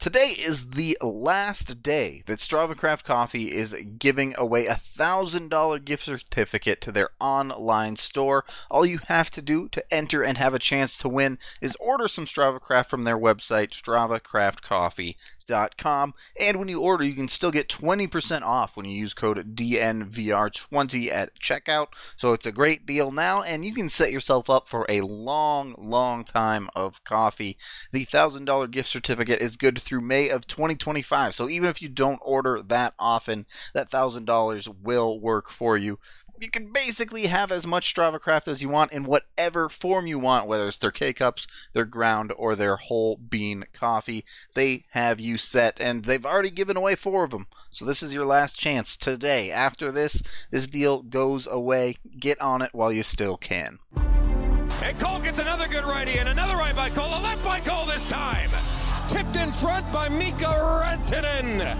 Today is the last day that Strava Craft Coffee is giving away a $1,000 gift certificate to their online store. All you have to do to enter and have a chance to win is order some Strava Craft from their website, StravaCraftCoffee.com. And when you order, you can still get 20% off when you use code DNVR20 at checkout. So it's a great deal now, and you can set yourself up for a long time of coffee. The $1,000 gift certificate is good through May of 2025. So even if you don't order that often, that $1,000 will work for you. You can basically have as much Strava Craft as you want in whatever form you want, whether it's their K-Cups, their ground, or their whole bean coffee. They have you set, and they've already given away 4 of them. So this is your last chance today. After this deal goes away. Get on it while you still can. And Cole gets another good righty, and another right by Cole, a left by Cole this time. Tipped in front by Mika Rantanen.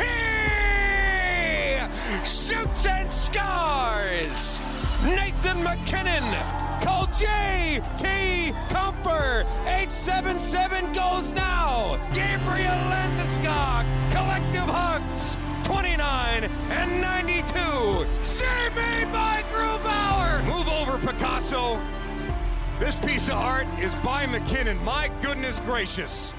He shoots and scores. Nathan MacKinnon. Cole J.T. Comfer. 877 goes now. Gabriel Landeskog. Collective hugs. 29 and 92. Save made by Grubauer. Move over, Picasso. This piece of art is by McKinnon. My goodness gracious.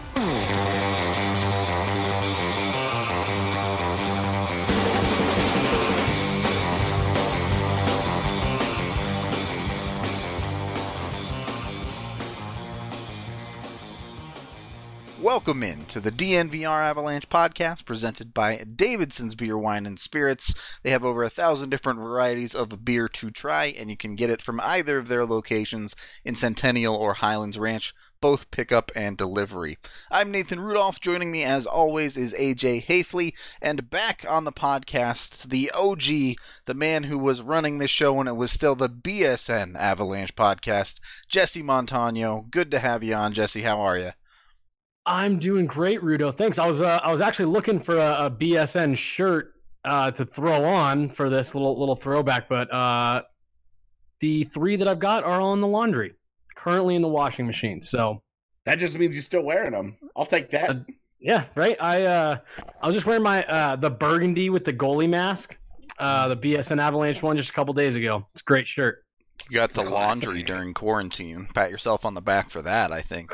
Welcome in to the DNVR Avalanche podcast presented by Davidson's Beer, Wine, and Spirits. They have over 1,000 different varieties of beer to try, and you can get it from either of their locations in Centennial or Highlands Ranch, both pickup and delivery. I'm Nathan Rudolph. Joining me as always is AJ Hafley, and back on the podcast, the OG, the man who was running this show when it was still the BSN Avalanche podcast, Jesse Montano. Good to have you on, Jesse. How are you? I'm doing great, Rudo. Thanks. I was actually looking for a BSN shirt to throw on for this little throwback, but the 3 that I've got are all in the laundry, currently in the washing machine. So that just means you're still wearing them. I'll take that. Yeah, right. I was just wearing my the burgundy with the goalie mask, the BSN Avalanche one just a couple days ago. It's a great shirt. You got the laundry during quarantine. Pat yourself on the back for that, I think.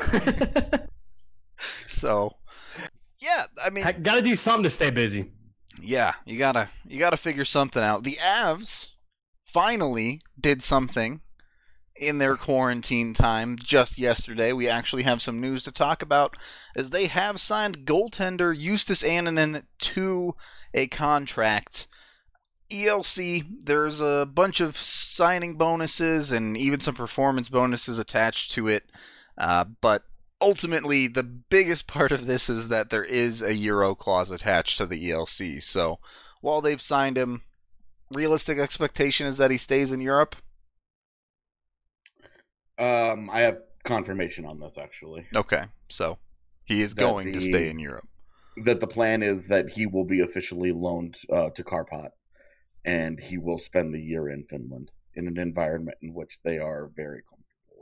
So, yeah, I mean, I gotta do something to stay busy. Yeah, you gotta figure something out. The Avs finally did something in their quarantine time just yesterday. We actually have some news to talk about, as they have signed goaltender Justus Annunen to a contract. ELC, there's a bunch of signing bonuses and even some performance bonuses attached to it, but ultimately, the biggest part of this is that there is a Euro clause attached to the ELC. So, while they've signed him, realistic expectation is that he stays in Europe? I have confirmation on this, actually. Okay, so he is going to stay in Europe. That the plan is that he will be officially loaned to Karpat, and he will spend the year in Finland in an environment in which they are very comfortable.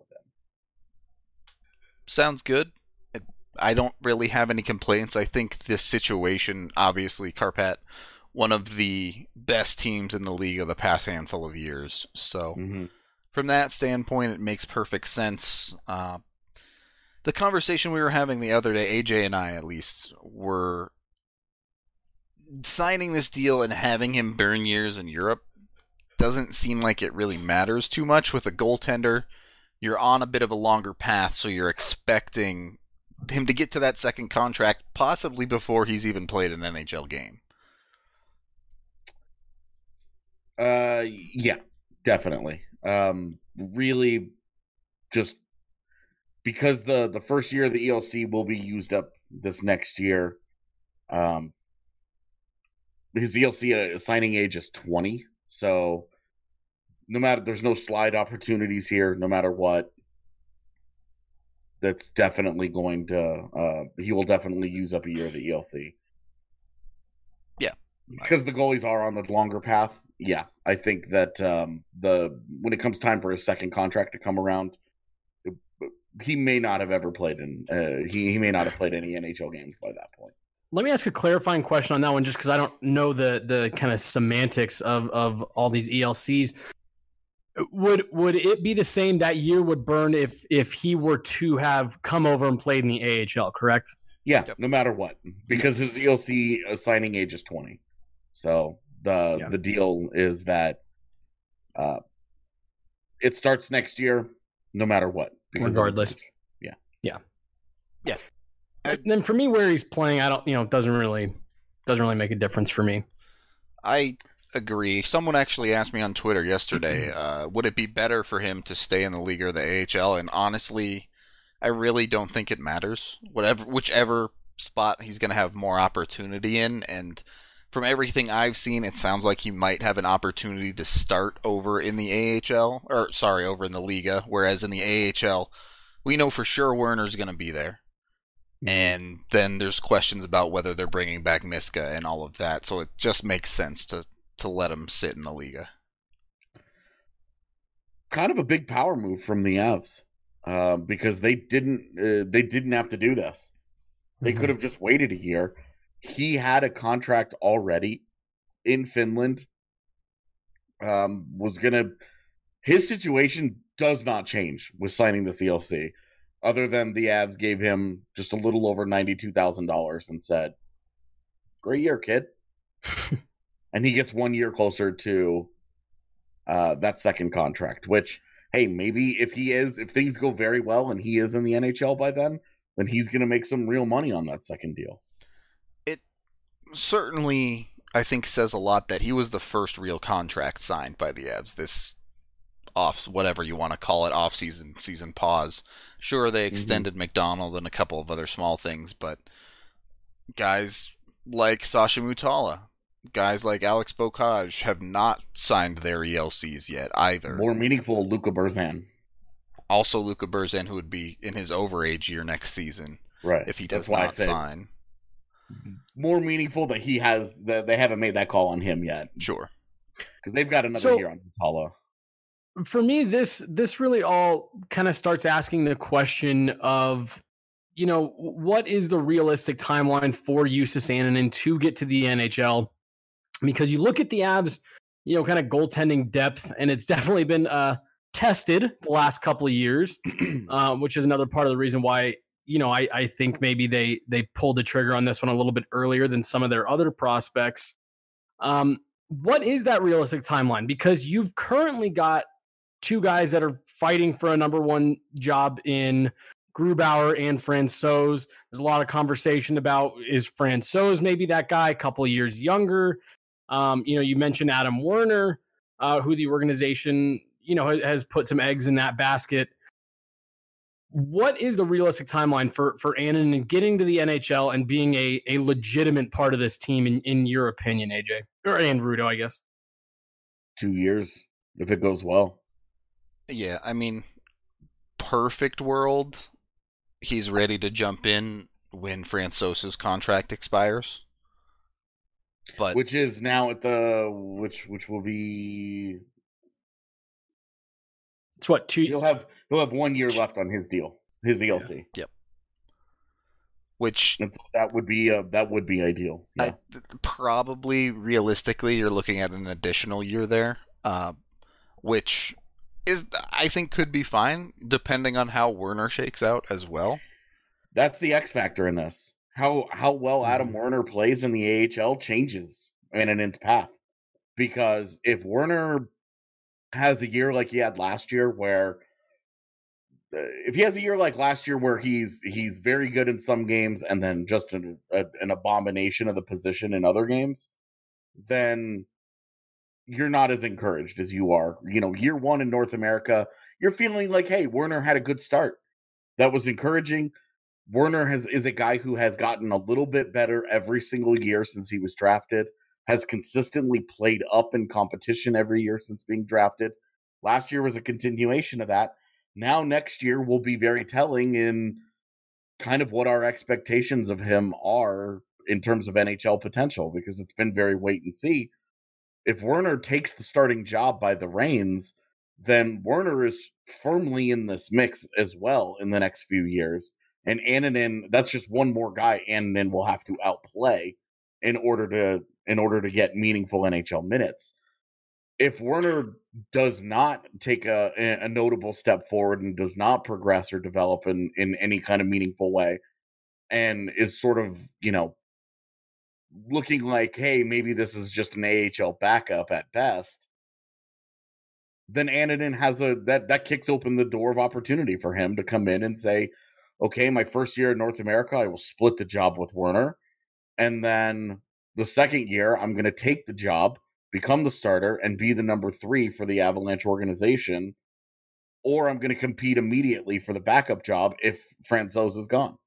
Sounds good. I don't really have any complaints. I think this situation, obviously, Karpat, one of the best teams in the league of the past handful of years. So, From that standpoint, it makes perfect sense. The conversation we were having the other day, AJ and I at least, were signing this deal and having him burn years in Europe doesn't seem like it really matters too much with a goaltender. You're on a bit of a longer path, so you're expecting him to get to that second contract possibly before he's even played an NHL game. Yeah, definitely. Really, just because the first year of the ELC will be used up this next year. His ELC signing age is 20, so there's no slide opportunities here, no matter what. That's definitely going to, he will definitely use up a year of the ELC. Yeah. Because the goalies are on the longer path. Yeah. I think that when it comes time for his second contract to come around, he may not have ever played he may not have played any NHL games by that point. Let me ask a clarifying question on that one, just because I don't know the kind of semantics of all these ELCs. Would it be the same that year would burn if he were to have come over and played in the AHL, correct? Yeah, no matter what, because his ELC signing age is 20. So the deal is that it starts next year, no matter what. Regardless. Yeah. And then for me, where he's playing, I don't, doesn't really make a difference for me. I agree. Someone actually asked me on Twitter yesterday, would it be better for him to stay in the league or the AHL? And honestly, I really don't think it matters. Whichever spot he's going to have more opportunity in, and from everything I've seen, it sounds like he might have an opportunity to start over in the over in the Liga, whereas in the AHL, we know for sure Werner's going to be there. And then there's questions about whether they're bringing back Miska and all of that, so it just makes sense to let him sit in the Liga. Kind of a big power move from the Avs, because they didn't have to do this. They could have just waited a year. He had a contract already in Finland. His situation does not change with signing the CLC, other than the Avs gave him just a little over $92,000 and said, "Great year, kid." And he gets 1 year closer to that second contract, which, hey, maybe if things go very well and he is in the NHL by then he's going to make some real money on that second deal. It certainly, I think, says a lot that he was the first real contract signed by the Avs. This whatever you want to call it, season pause. Sure, they extended McDonald and a couple of other small things, but guys like Sasha Mutala, guys like Alex Bocage have not signed their ELCs yet either. More meaningful, Luka Burzan. Also Luka Burzan, who would be in his overage year next season, right? If he does not sign. More meaningful that they haven't made that call on him yet. Sure. Because they've got another year on Mutala. For me, this really all kind of starts asking the question of, what is the realistic timeline for Justus Annunen to get to the NHL? Because you look at the Avs, kind of goaltending depth, and it's definitely been tested the last couple of years, which is another part of the reason why, I think maybe they pulled the trigger on this one a little bit earlier than some of their other prospects. What is that realistic timeline? Because you've currently got two guys that are fighting for a number one job in Grubauer and Francouz. There's a lot of conversation about, is Francouz maybe that guy, a couple of years younger? You mentioned Adam Werner, who the organization, has put some eggs in that basket. What is the realistic timeline for Annunen getting to the NHL and being a legitimate part of this team, in your opinion, AJ? And Rudo, I guess. 2 years, if it goes well. Yeah, I mean, perfect world, he's ready to jump in when Francouz's contract expires. But which is now at which will be, it's what, 2 he'll have 1 year left on his deal, his ELC. Yeah. Yep. Which that would be ideal. Yeah. Probably realistically, you're looking at an additional year there, which is, I think, could be fine depending on how Werner shakes out as well. That's the X factor in this. How well Adam Werner plays in the AHL changes Annunen's path. Because if Werner has a year like he had last year, where he's very good in some games and then just an abomination of the position in other games, then you're not as encouraged as you are. Year one in North America, you're feeling like, hey, Werner had a good start. That was encouraging. Werner is a guy who has gotten a little bit better every single year since he was drafted, has consistently played up in competition every year since being drafted. Last year was a continuation of that. Now next year will be very telling in kind of what our expectations of him are in terms of NHL potential, because it's been very wait and see. If Werner takes the starting job by the reins, then Werner is firmly in this mix as well in the next few years. And Annunen, that's just one more guy Annunen will have to outplay in order to get meaningful NHL minutes. If Werner does not take a notable step forward and does not progress or develop in any kind of meaningful way, and is sort of, looking like, hey, maybe this is just an AHL backup at best, then Annunen has that kicks open the door of opportunity for him to come in and say, okay, my first year in North America, I will split the job with Werner. And then the second year, I'm going to take the job, become the starter, and be the number 3 for the Avalanche organization. Or I'm going to compete immediately for the backup job if Francouz is gone.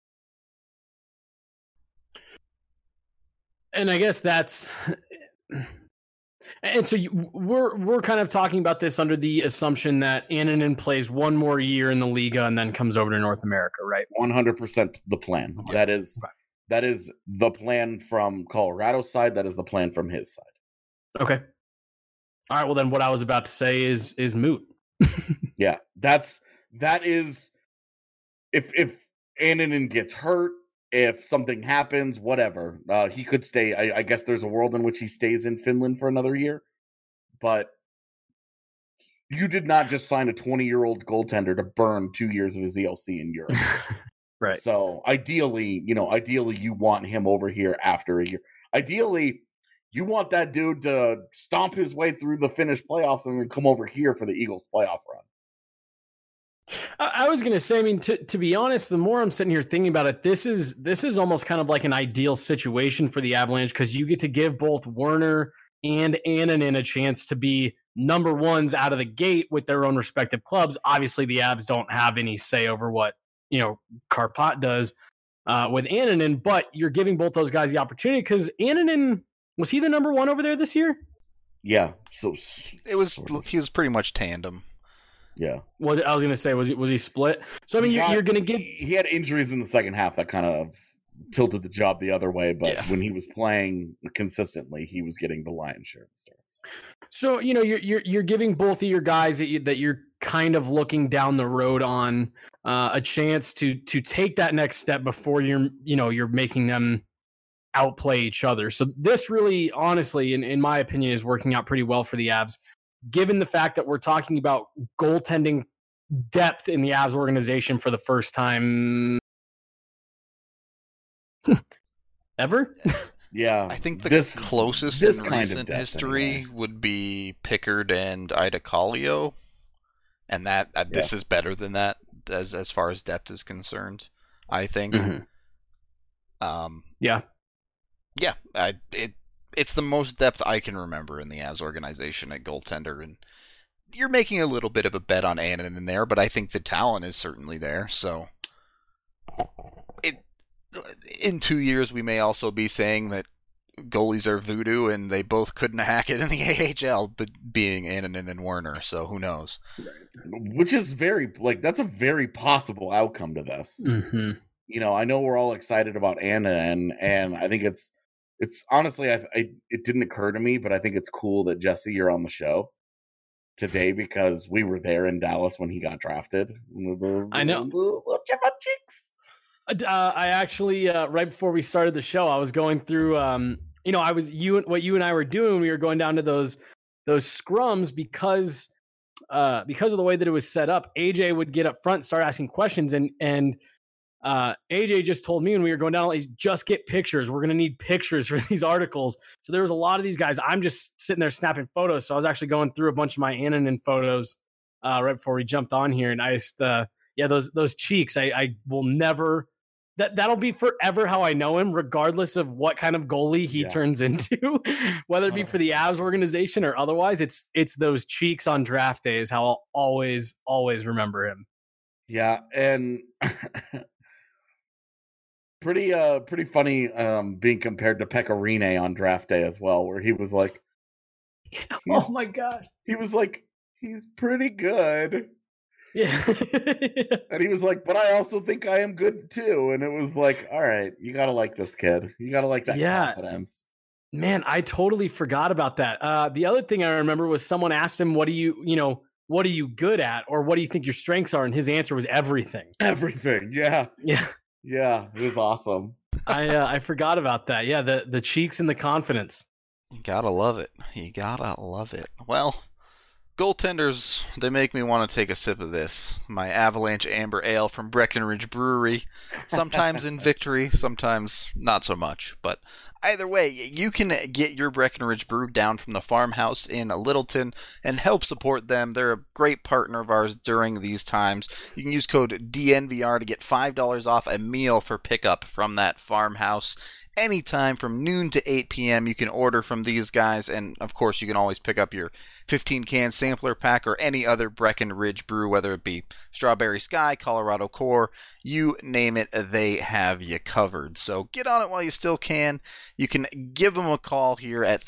And I guess that's... And so we're kind of talking about this under the assumption that Annunen plays one more year in the Liga and then comes over to North America, right? 100% the plan. Okay. That is the plan from Colorado's side. That is the plan from his side. Okay. All right. Well, then what I was about to say is moot. Yeah, that is if Annunen gets hurt, if something happens, whatever, he could stay. I guess there's a world in which he stays in Finland for another year, but you did not just sign a 20-year-old goaltender to burn 2 years of his ELC in Europe. Right. So ideally you want him over here after a year. Ideally, you want that dude to stomp his way through the Finnish playoffs and then come over here for the Eagles playoff run. I was going to say, I mean, to be honest, the more I'm sitting here thinking about it, this is almost kind of like an ideal situation for the Avalanche because you get to give both Werner and Annunen a chance to be number ones out of the gate with their own respective clubs. Obviously, the Avs don't have any say over what, Karpat does with Annunen, but you're giving both those guys the opportunity because Annunen, was he the number 1 over there this year? Yeah. So he was pretty much tandem. Yeah. I was going to say, was he split? So, I mean, you're going to get... He had injuries in the second half that kind of tilted the job the other way, but when he was playing consistently, he was getting the lion's share of the starts. So, you're giving both of your guys that you're kind of looking down the road on a chance to take that next step before you're making them outplay each other. So this really, honestly, in my opinion, is working out pretty well for the Avs, given the fact that we're talking about goaltending depth in the Avs organization for the first time ever. Yeah. I think the closest in recent history would be Pickard and Ida Kallio. And this is better than that as far as depth is concerned, I think. Mm-hmm. Yeah, it's the most depth I can remember in the Avs organization at goaltender, and you're making a little bit of a bet on Annunen in there, but I think the talent is certainly there. So, in 2 years we may also be saying that goalies are voodoo and they both couldn't hack it in the AHL, but being Annunen and Werner. So who knows? Which is that's a very possible outcome to this. Mm-hmm. I know we're all excited about Annunen, and I think it's honestly, it didn't occur to me, but I think it's cool that Jesse, you're on the show today because we were there in Dallas when he got drafted. I know. Little chip on cheeks. I actually, right before we started the show, I was going through, what you and I were doing. We were going down to those scrums because of the way that it was set up. AJ would get up front, start asking questions, and AJ just told me when we were going down, just get pictures. We're going to need pictures for these articles. So there was a lot of these guys. I'm just sitting there snapping photos. So I was actually going through a bunch of my Annunen photos right before we jumped on here. And I just, those cheeks, I will never, that'll be forever how I know him, regardless of what kind of goalie he turns into, whether it be for the Avs organization or otherwise. It's those cheeks on draft day is how I'll always remember him. Yeah. And pretty funny being compared to Pekka Rinne on draft day as well, where he was like, oh my God. He was like, he's pretty good. Yeah. And he was like, but I also think I am good too. And it was like, all right, you got to like this kid. You got to like that confidence. Man, I totally forgot about that. The other thing I remember was someone asked him, what do you what are you good at, or what do you think your strengths are? And his answer was everything. Everything. Yeah. Yeah. Yeah. It was awesome. I forgot about that. Yeah, the cheeks and the confidence. You gotta love it. You gotta love it. Well, goaltenders, they make me want to take a sip of this. My Avalanche Amber Ale from Breckenridge Brewery. Sometimes in victory, sometimes not so much. But either way, you can get your Breckenridge Brew down from the farmhouse in Littleton and help support them. They're a great partner of ours during these times. You can use code DNVR to get $5 off a meal for pickup from that farmhouse. Anytime from noon to 8 p.m. you can order from these guys, and of course you can always pick up your 15-can sampler pack or any other Breckenridge brew, whether it be Strawberry Sky, Colorado Core, you name it, they have you covered. So get on it while you still can. You can give them a call here at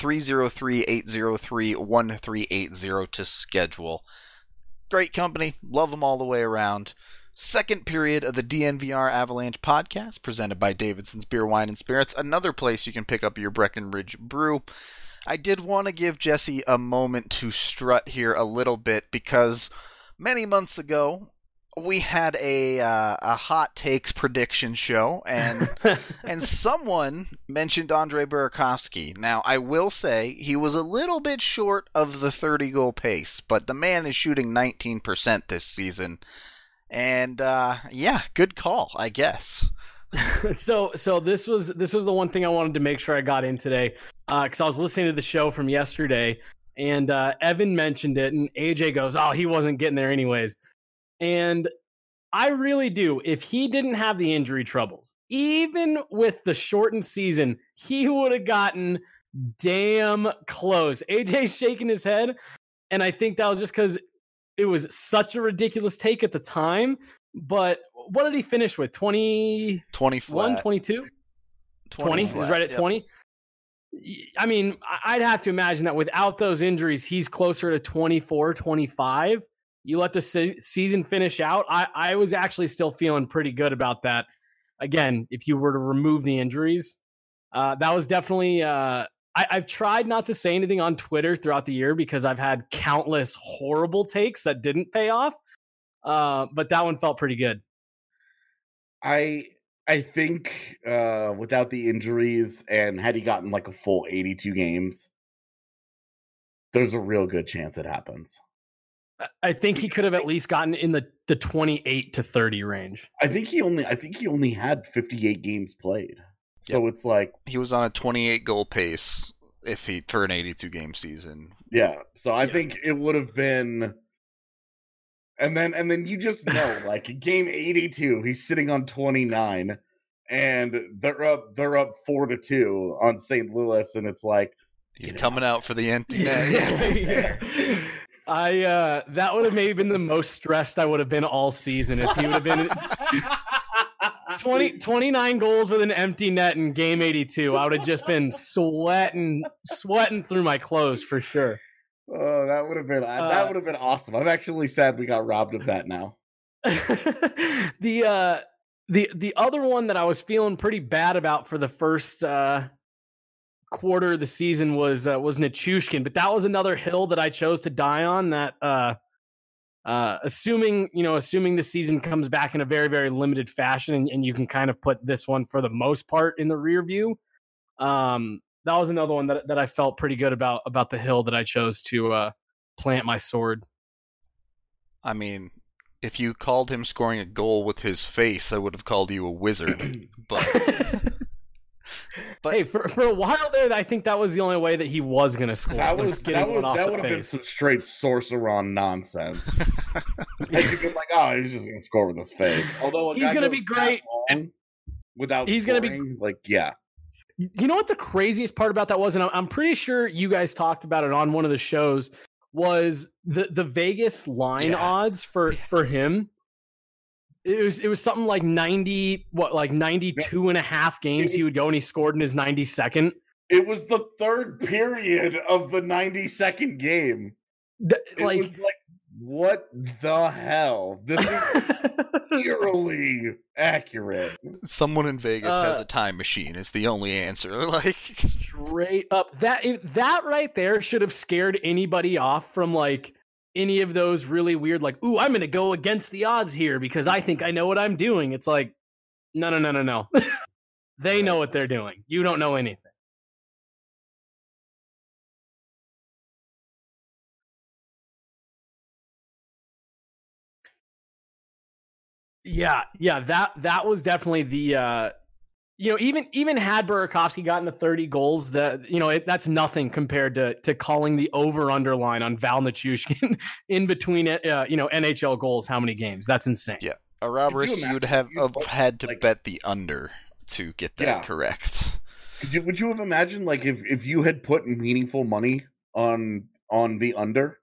303-803-1380 to schedule. Great company, love them all the way around. Second period of the DNVR Avalanche podcast, presented by Davidson's Beer, Wine, and Spirits. Another place you can pick up your Breckenridge brew. I did want to give Jesse a moment to strut here a little bit because many months ago we had a hot takes prediction show, and someone mentioned Andre Burakovsky. Now, I will say he was a little bit short of the 30-goal pace, but the man is shooting 19% this season. And yeah, good call, I guess. So this was the one thing I wanted to make sure I got in today, because I was listening to the show from yesterday, and Evan mentioned it, and AJ goes, "Oh, he wasn't getting there anyways." And I really do. If he didn't have the injury troubles, even with the shortened season, he would have gotten damn close. AJ's shaking his head, and I think that was just because it was such a ridiculous take at the time. But what did he finish with? 20 flat. 22? 20? He was right at 20? I mean, I'd have to imagine that without those injuries, he's closer to 24, 25. You let the season finish out. I was actually still feeling pretty good about that. Again, if you were to remove the injuries, that was definitely... I've tried not to say anything on Twitter throughout the year because I've had countless horrible takes that didn't pay off. But that one felt pretty good. I think without the injuries and had he gotten like a full 82 games, there's a real good chance it happens. I think he could have at least gotten in the 28 to 30 range. I think he only had 58 games played. So It's like he was on a 28 goal pace for an 82 game season. Yeah. So I think it would have been, and then you just know, like game 82, he's sitting on 29, and they're up 4-2 on St. Louis, and it's like he's coming out for the empty net. That would have maybe been the most stressed I would have been all season if he would have been 29 goals with an empty net in game 82. I would have just been sweating through my clothes for sure. Oh, that would have been awesome. I'm actually sad we got robbed of that now. The other one that I was feeling pretty bad about for the first quarter of the season was Nichushkin, but that was another hill that I chose to die on. That assuming the season comes back in a very, very limited fashion, and you can kind of put this one for the most part in the rear view. That was another one that I felt pretty good about the hill that I chose to plant my sword. I mean, if you called him scoring a goal with his face, I would have called you a wizard. But hey, for a while there, I think that was the only way that he was going to score. That would have been some straight sorceron nonsense. And you'd be like, oh, he's just going to score with his face. Although he's going to be great without he's going to be like, yeah. You know what the craziest part about that was, and I'm pretty sure you guys talked about it on one of the shows, was the Vegas line odds for him. It was something like 92 and a half games he would go, and he scored in his 92nd. It was the third period of the 92nd game. It was like, what the hell? This is eerily accurate. Someone in Vegas has a time machine is the only answer. Like straight up, that right there should have scared anybody off from like any of those really weird, like, ooh, I'm going to go against the odds here because I think I know what I'm doing. It's like, no. They know what they're doing. You don't know anything. Yeah, that was definitely the even had Burakovsky gotten to 30 goals, that's nothing compared to calling the over-under line on Val Nichushkin in between NHL goals. How many games? That's insane. Yeah, Roberts, you would have had to bet the under to get that correct. Would you have imagined like if you had put meaningful money on the under,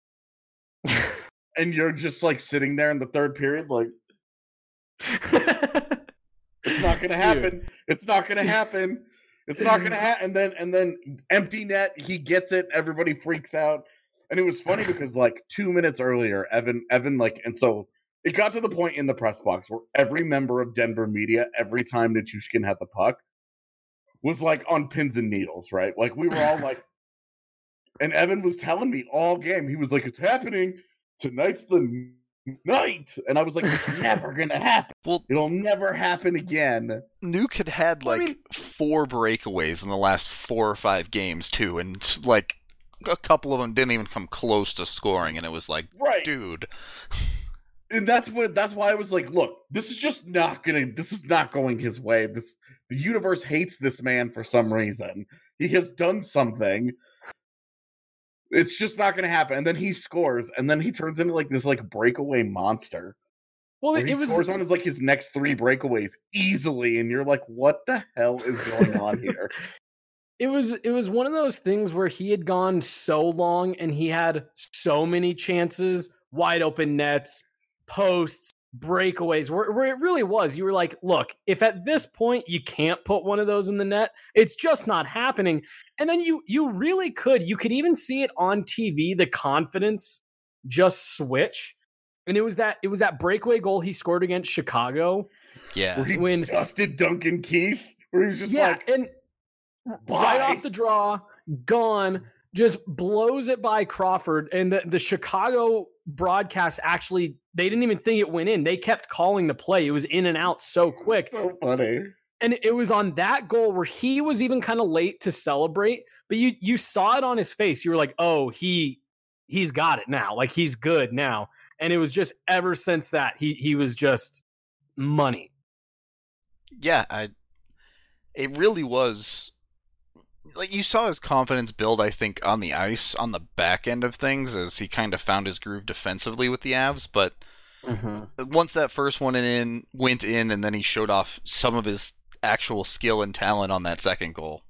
and you're just like sitting there in the third period, like. It's not gonna happen. It's not gonna happen. It's not gonna happen. And then empty net. He gets it. Everybody freaks out. And it was funny because like 2 minutes earlier, Evan and so it got to the point in the press box where every member of Denver media, every time Nichushkin had the puck, was like on pins and needles, right? Like we were all like, and Evan was telling me all game, he was like, "It's happening. Tonight's the night," and I was like, "It's never gonna happen. Well, it'll never happen again." Nuke had 4 breakaways in the last 4 or 5 games too, and like a couple of them didn't even come close to scoring, and it was like, dude. And that's why I was like, "Look, this is not going his way. The universe hates this man for some reason. He has done something." It's just not going to happen. And then he scores, and then he turns into like this like breakaway monster. Well, he scores on his next 3 breakaways easily, and you're like, what the hell is going on here? It was one of those things where he had gone so long, and he had so many chances, wide open nets, posts, breakaways, where it really was. You were like, look, if at this point you can't put one of those in the net, it's just not happening. And then you really could. You could even see it on TV, the confidence just switch. And it was that breakaway goal he scored against Chicago. Yeah. Where he dusted Duncan Keith. Where he was just and right off the draw, gone, just blows it by Crawford. And the Chicago broadcast actually, they didn't even think it went in. They kept calling the play. It was in and out so quick. So funny. And it was on that goal where he was even kind of late to celebrate, but you saw it on his face. You were like, oh, he's got it now. Like, he's good now. And it was just ever since that, he was just money. Yeah, it really was. Like, you saw his confidence build, I think, on the ice, on the back end of things, as he kind of found his groove defensively with the Avs, but once that first one went in, and then he showed off some of his actual skill and talent on that second goal,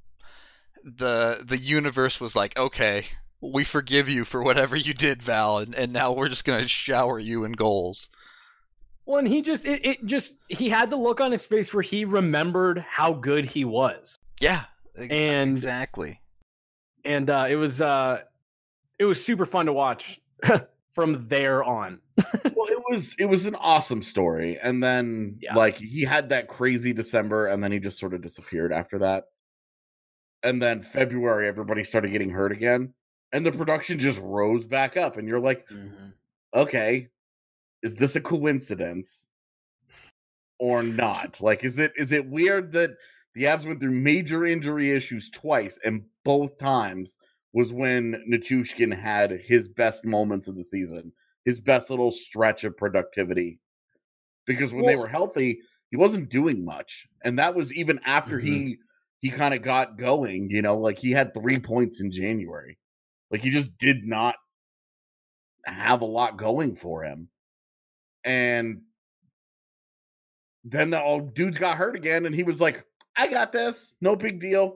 the universe was like, okay, we forgive you for whatever you did, Val, and now we're just going to shower you in goals. Well, and he had the look on his face where he remembered how good he was. Yeah. Exactly. And it was super fun to watch from there on. Well, it was an awesome story. And then like he had that crazy December, and then he just sort of disappeared after that. And then February, everybody started getting hurt again, and the production just rose back up. And you're like, okay, is this a coincidence or not? Like, is it weird that the Avs went through major injury issues twice, and both times was when Nichushkin had his best moments of the season, his best little stretch of productivity. Because when they were healthy, he wasn't doing much. And that was even after he kind of got going, like he had 3 points in January. Like, he just did not have a lot going for him. And then the old dudes got hurt again, and he was like, I got this. No big deal.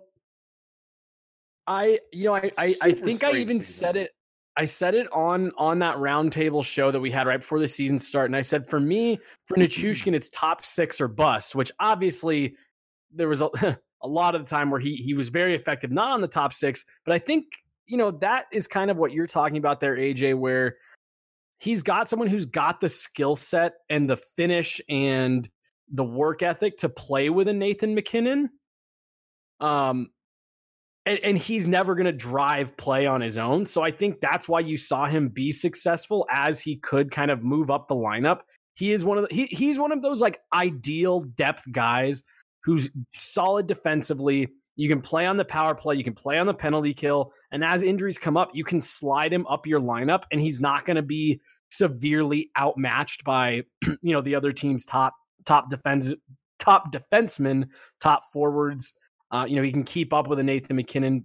I think I even said it. I said it on that roundtable show that we had right before the season started. And I said, for me, for Nichushkin, it's top 6 or bust, which obviously there was a lot of the time where he was very effective, not on the top 6. But I think, that is kind of what you're talking about there, AJ, where he's got someone who's got the skill set and the finish and the work ethic to play with a Nathan MacKinnon. and he's never going to drive play on his own. So I think that's why you saw him be successful as he could kind of move up the lineup. He is one of he's one of those like ideal depth guys who's solid defensively. You can play on the power play, you can play on the penalty kill, and as injuries come up, you can slide him up your lineup, and he's not going to be severely outmatched by the other team's top defensemen, top forwards. He can keep up with a Nathan McKinnon.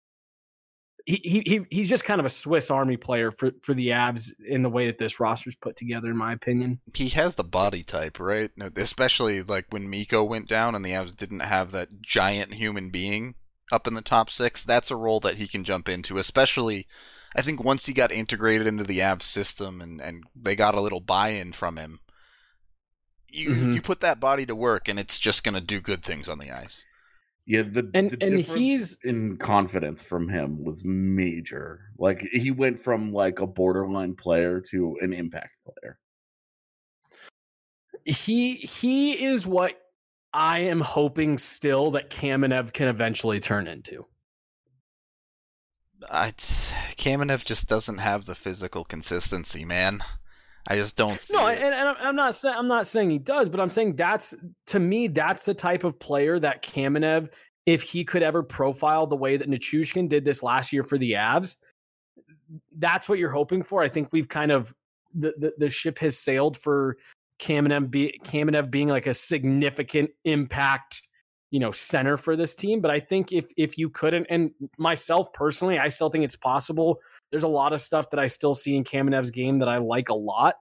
He's just kind of a Swiss Army player for the Avs in the way that this roster's put together, in my opinion. He has the body type, right? Especially like when Mikko went down and the Avs didn't have that giant human being up in the top six. That's a role that he can jump into, especially I think once he got integrated into the Avs system and they got a little buy-in from him. You put that body to work and it's just going to do good things on the ice. Yeah, the difference in confidence from him was major. Like he went from like a borderline player to an impact player. He is what I am hoping still that Kamenev can eventually turn into. Kamenev just doesn't have the physical consistency, man. I just don't see it. And I'm not saying he does, but I'm saying that's the type of player that Kamenev, if he could ever profile the way that Nichushkin did this last year for the Avs, that's what you're hoping for. I think we've kind of the ship has sailed for Kamenev being like a significant impact, center for this team. But I think if you couldn't, and myself personally, I still think it's possible. There's a lot of stuff that I still see in Kamenev's game that I like a lot.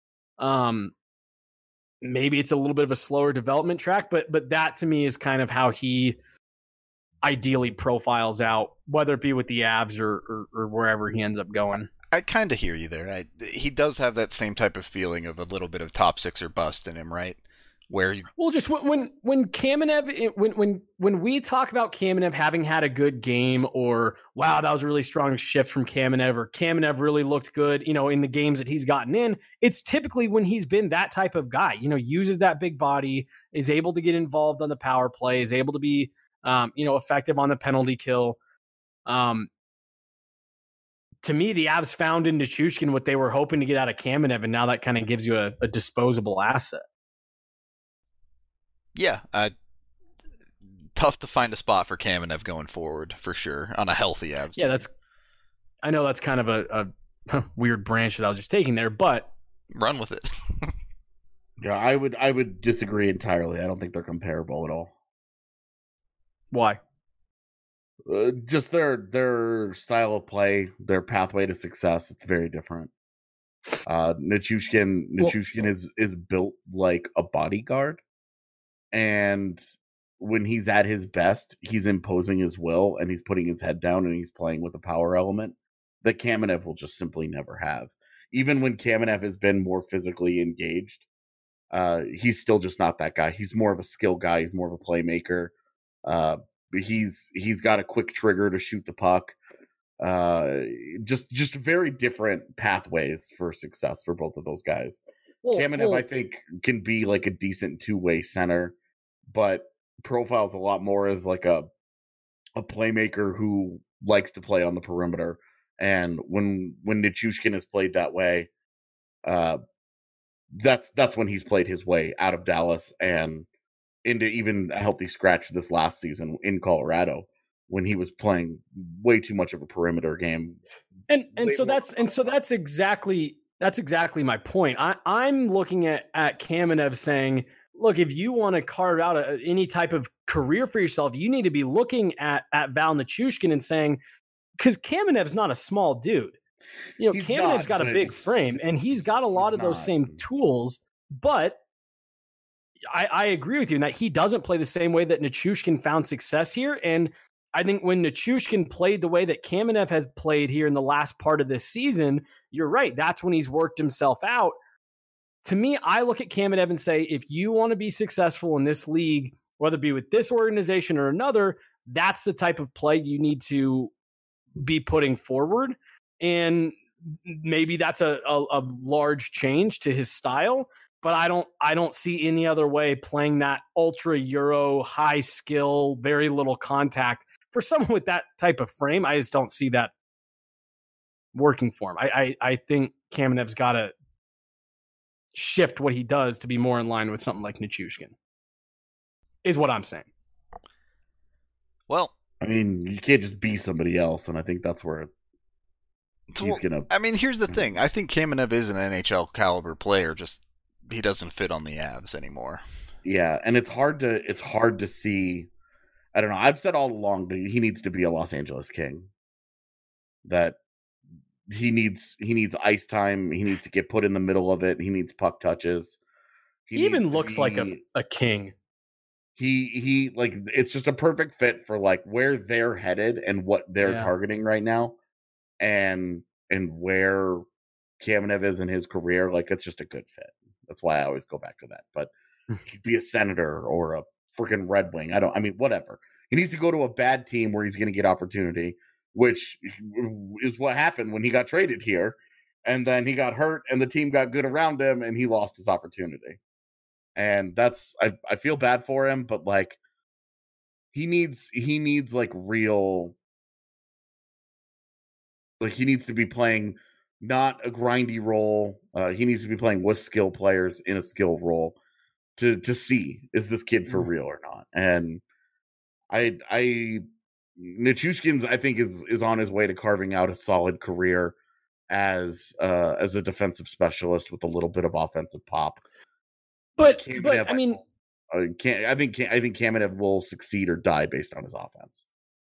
Maybe it's a little bit of a slower development track, but that to me is kind of how he ideally profiles out, whether it be with the Avs or wherever he ends up going. I kind of hear you there. He does have that same type of feeling of a little bit of top six or bust in him, right? Just when Kamenev, when we talk about Kamenev having had a good game, or wow, that was a really strong shift from Kamenev, or Kamenev really looked good, in the games that he's gotten in, it's typically when he's been that type of guy, uses that big body, is able to get involved on the power play, is able to be, effective on the penalty kill. To me, the Avs found in Nichushkin what they were hoping to get out of Kamenev, and now that kind of gives you a disposable asset. Yeah, tough to find a spot for Kamenev going forward, for sure, on a healthy Avs team. Yeah, I know that's kind of a weird branch that I was just taking there, but run with it. Yeah, I would disagree entirely. I don't think they're comparable at all. Why? Just their style of play, their pathway to success, it's very different. Nichushkin is built like a bodyguard. And when he's at his best, he's imposing his will and he's putting his head down and he's playing with a power element that Kamenev will just simply never have. Even when Kamenev has been more physically engaged, he's still just not that guy. He's more of a skill guy. He's more of a playmaker. He's got a quick trigger to shoot the puck. Just very different pathways for success for both of those guys. Kamenev, I think, can be like a decent two-way center, but profiles a lot more as like a playmaker who likes to play on the perimeter. And when Nichushkin has played that way, that's when he's played his way out of Dallas and into even a healthy scratch this last season in Colorado, when he was playing way too much of a perimeter game. And so that's exactly my point. I'm looking at Kamenev saying, look, if you want to carve out any type of career for yourself, you need to be looking at Val Nichushkin and saying, because Kamenev's not a small dude. Kamenev's got a big frame and he's got a lot of those same tools, but I agree with you in that he doesn't play the same way that Nichushkin found success here. And I think when Nichushkin played the way that Kamenev has played here in the last part of this season, you're right. That's when he's worked himself out. To me, I look at Kamenev and say, if you want to be successful in this league, whether it be with this organization or another, that's the type of play you need to be putting forward. And maybe that's a large change to his style, but I don't see any other way playing that ultra Euro high skill, very little contact for someone with that type of frame, I just don't see that working for him. I think Kamenev's got to shift what he does to be more in line with something like Nichushkin, is what I'm saying. Well, I mean, you can't just be somebody else, and I think that's where he's gonna. I mean, here's the thing. I think Kamenev is an NHL caliber player. Just he doesn't fit on the Avs anymore. Yeah, and it's hard to see. I don't know. I've said all along that he needs to be a Los Angeles King. That he needs ice time. He needs to get put in the middle of it. He needs puck touches. He even looks like a king. He like, it's just a perfect fit for like where they're headed and what they're targeting right now, and where Kamenev is in his career. Like, it's just a good fit. That's why I always go back to that. But he could be a Senator or a freaking Red Wing. I mean, whatever. He needs to go to a bad team where he's going to get opportunity, which is what happened when he got traded here. And then he got hurt and the team got good around him and he lost his opportunity. And that's, I feel bad for him, but like he needs like real, like he needs to be playing not a grindy role. He needs to be playing with skill players in a skill role to see, is this kid for real or not? And Nichushkin's, I think, is on his way to carving out a solid career as a defensive specialist with a little bit of offensive pop. But Kamenev, I mean, I think Kamenev will succeed or die based on his offense.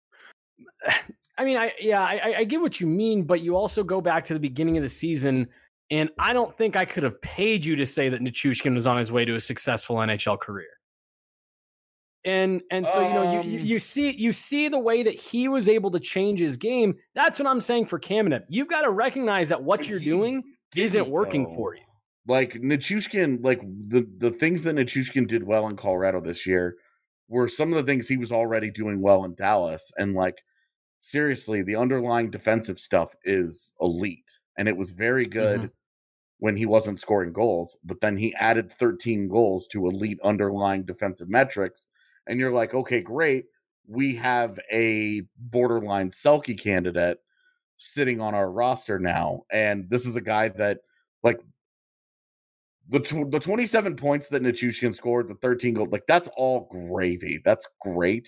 I mean, I get what you mean, but you also go back to the beginning of the season, and I don't think I could have paid you to say that Nichushkin was on his way to a successful NHL career. And so you see the way that he was able to change his game. That's what I'm saying for Kamenev. You've got to recognize that what you're doing isn't working for you. Like Nichushkin, like the things that Nichushkin did well in Colorado this year were some of the things he was already doing well in Dallas. And like, seriously, the underlying defensive stuff is elite. And it was very good when he wasn't scoring goals, but then he added 13 goals to elite underlying defensive metrics. And you're like, okay, great. We have a borderline Selke candidate sitting on our roster now. And this is a guy that, like, the 27 points that Nichushkin scored, the 13 goals, like, that's all gravy. That's great.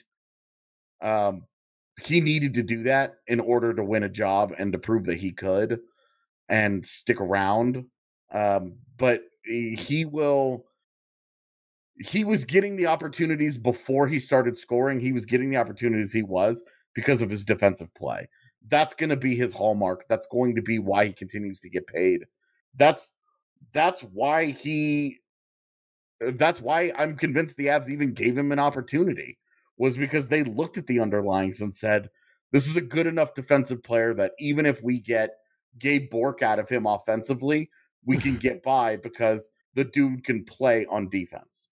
He needed to do that in order to win a job and to prove that he could and stick around. But he was getting the opportunities before he started scoring. He was getting the opportunities because of his defensive play. That's going to be his hallmark. That's going to be why he continues to get paid. That's why I'm convinced the Avs even gave him an opportunity, was because they looked at the underlyings and said, this is a good enough defensive player that even if we get Gabe Bourque out of him offensively, we can get by because the dude can play on defense.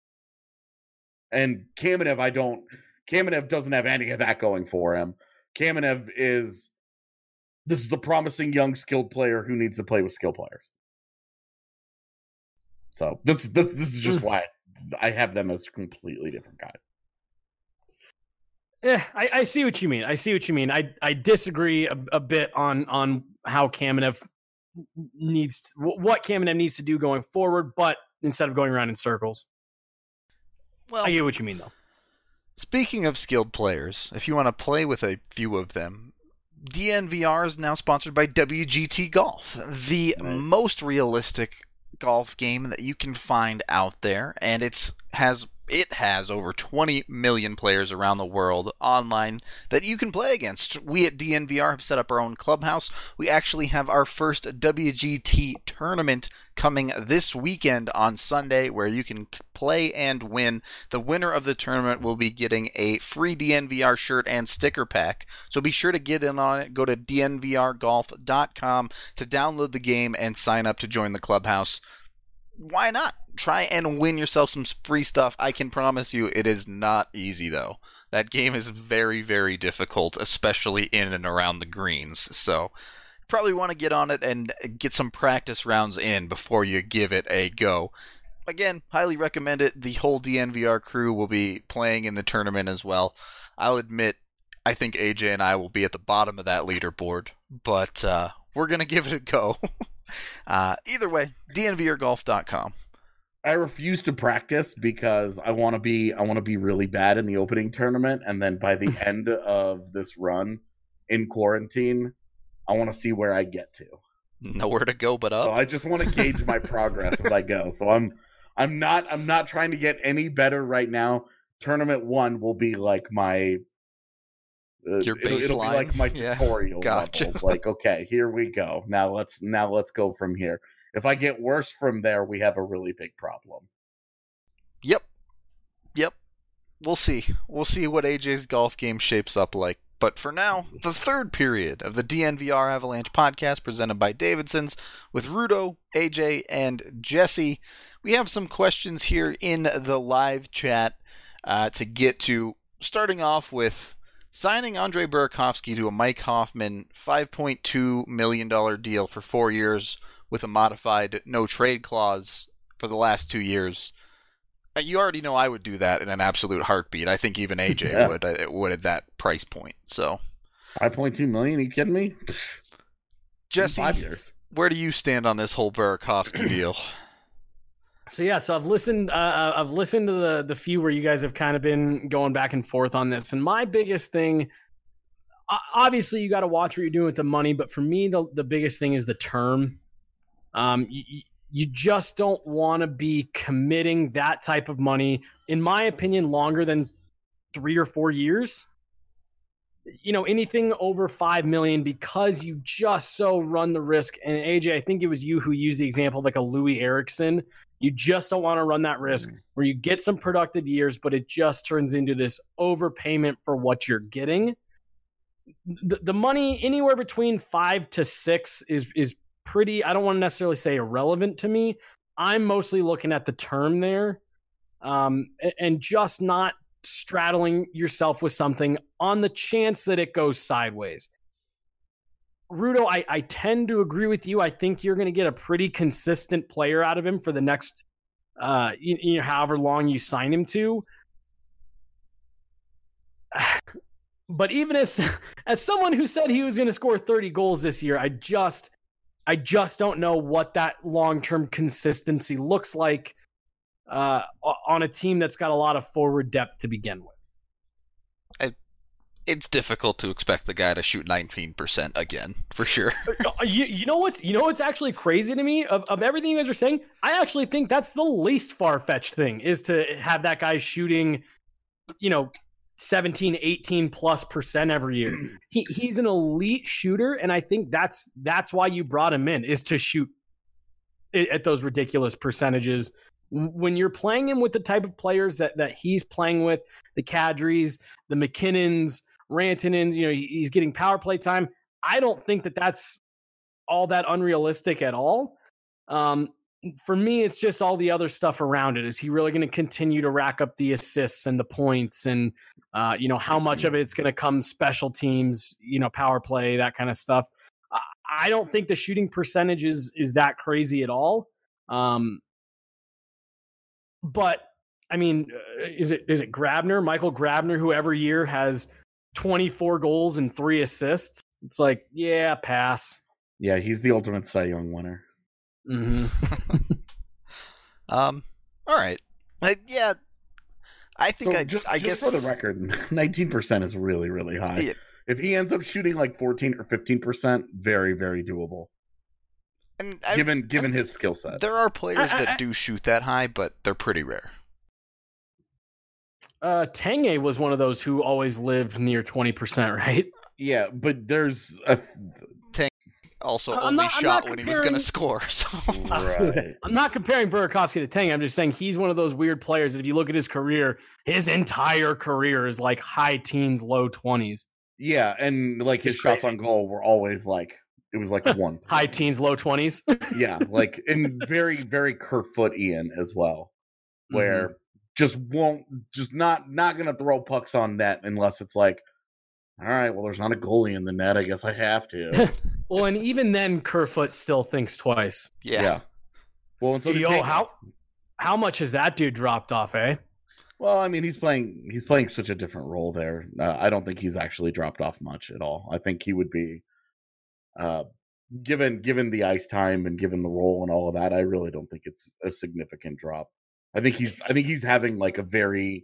And Kamenev doesn't have any of that going for him. Kamenev this is a promising young skilled player who needs to play with skill players. So this is just why I have them as completely different guys. Yeah, I see what you mean. I disagree a bit on how Kamenev what Kamenev needs to do going forward, but instead of going around in circles. Well, I get what you mean, though. Speaking of skilled players, if you want to play with a few of them, DNVR is now sponsored by WGT Golf, the most realistic golf game that you can find out there, and it has over 20 million players around the world online that you can play against. We at DNVR have set up our own clubhouse. We actually have our first WGT tournament coming this weekend on Sunday, where you can play and win. The winner of the tournament will be getting a free DNVR shirt and sticker pack. So be sure to get in on it. Go to dnvrgolf.com to download the game and sign up to join the clubhouse. Why not? Try and win yourself some free stuff. I can promise you it is not easy, though. That game is very, very difficult, especially in and around the greens. So probably want to get on it and get some practice rounds in before you give it a go. Again, highly recommend it. The whole DNVR crew will be playing in the tournament as well. I'll admit, I think AJ and I will be at the bottom of that leaderboard, but we're going to give it a go. Either way, dnvrgolf.com. I refuse to practice because I want to be really bad in the opening tournament, and then by the end of this run in quarantine, I want to see where I get to. Nowhere to go but up. So I just want to gauge my progress as I go. So I'm not trying to get any better right now. Tournament 1 will be like my your baseline. It'll be like my tutorial Gotcha. level. Like, okay, here we go. Now let's go from here. If I get worse from there, we have a really big problem. Yep. We'll see. We'll see what AJ's golf game shapes up like. But for now, the third period of the DNVR Avalanche podcast presented by Davidson's with Rudo, AJ, and Jesse. We have some questions here in the live chat to get to. Starting off with signing Andre Burakovsky to a Mike Hoffman $5.2 million deal for 4 years with a modified no-trade clause for the last 2 years. You already know I would do that in an absolute heartbeat. I think even AJ would at that price point. So, $5.2 million? Are you kidding me? Jesse, 5 years. Where do you stand on this whole Burakovsky deal? So I've listened to the few where you guys have kind of been going back and forth on this, and my biggest thing, obviously you got to watch what you're doing with the money, but for me the biggest thing is the term. You just don't want to be committing that type of money, in my opinion, longer than 3 or 4 years. You know, anything over $5 million, because you just so run the risk. And AJ, I think it was you who used the example of like a Louis Erickson. You just don't want to run that risk where you get some productive years, but it just turns into this overpayment for what you're getting. The money anywhere between 5 to 6 is pretty, I don't want to necessarily say irrelevant to me. I'm mostly looking at the term there, and just not straddling yourself with something on the chance that it goes sideways. Rudo, I tend to agree with you. I think you're going to get a pretty consistent player out of him for the next, however long you sign him to. But even as someone who said he was going to score 30 goals this year, I just don't know what that long-term consistency looks like on a team that's got a lot of forward depth to begin with. It's difficult to expect the guy to shoot 19% again, for sure. You know what's actually crazy to me of everything you guys are saying? I actually think that's the least far-fetched thing, is to have that guy shooting, 17, 18+% every year. He's an elite shooter, and I think that's why you brought him in, is to shoot at those ridiculous percentages. When you're playing him with the type of players that he's playing with, the Kadris, the McKinnons, Rantanens, he's getting power play time. I don't think that's all that unrealistic at all. For me, it's just all the other stuff around it. Is he really going to continue to rack up the assists and the points, and how much of it's going to come special teams, power play, that kind of stuff. I don't think the shooting percentage is that crazy at all. But I mean, is it Grabner, Michael Grabner, who every year has 24 goals and 3 assists? It's like, yeah, pass. Yeah, he's the ultimate Cy Young winner. Mm-hmm. All right. Yeah, I think I guess for the record, 19% is really, really high. Yeah. If he ends up shooting like 14 or 15%, very, very doable. And given his skill set. There are players that do shoot that high, but they're pretty rare. Tanguay was one of those who always lived near 20%, right? Yeah, but there's a Tanguay also only shot when he was going to score. So. Right. I'm not comparing Burakovsky to Tanguay. I'm just saying he's one of those weird players that if you look at his career, his entire career is like high teens, low 20s. Yeah, and like his shots on goal were always like, it was like 1. High teens, low 20s. Yeah, like, and very, very Kerfoot-ian as well, where just not going to throw pucks on net unless it's like, all right, well, there's not a goalie in the net. I guess I have to. Well, and even then, Kerfoot still thinks twice. Yeah. Well, and so how much has that dude dropped off, eh? Well, I mean, he's playing such a different role there. I don't think he's actually dropped off much at all. I think he would be, given the ice time and given the role and all of that. I really don't think it's a significant drop. I think he's having like a very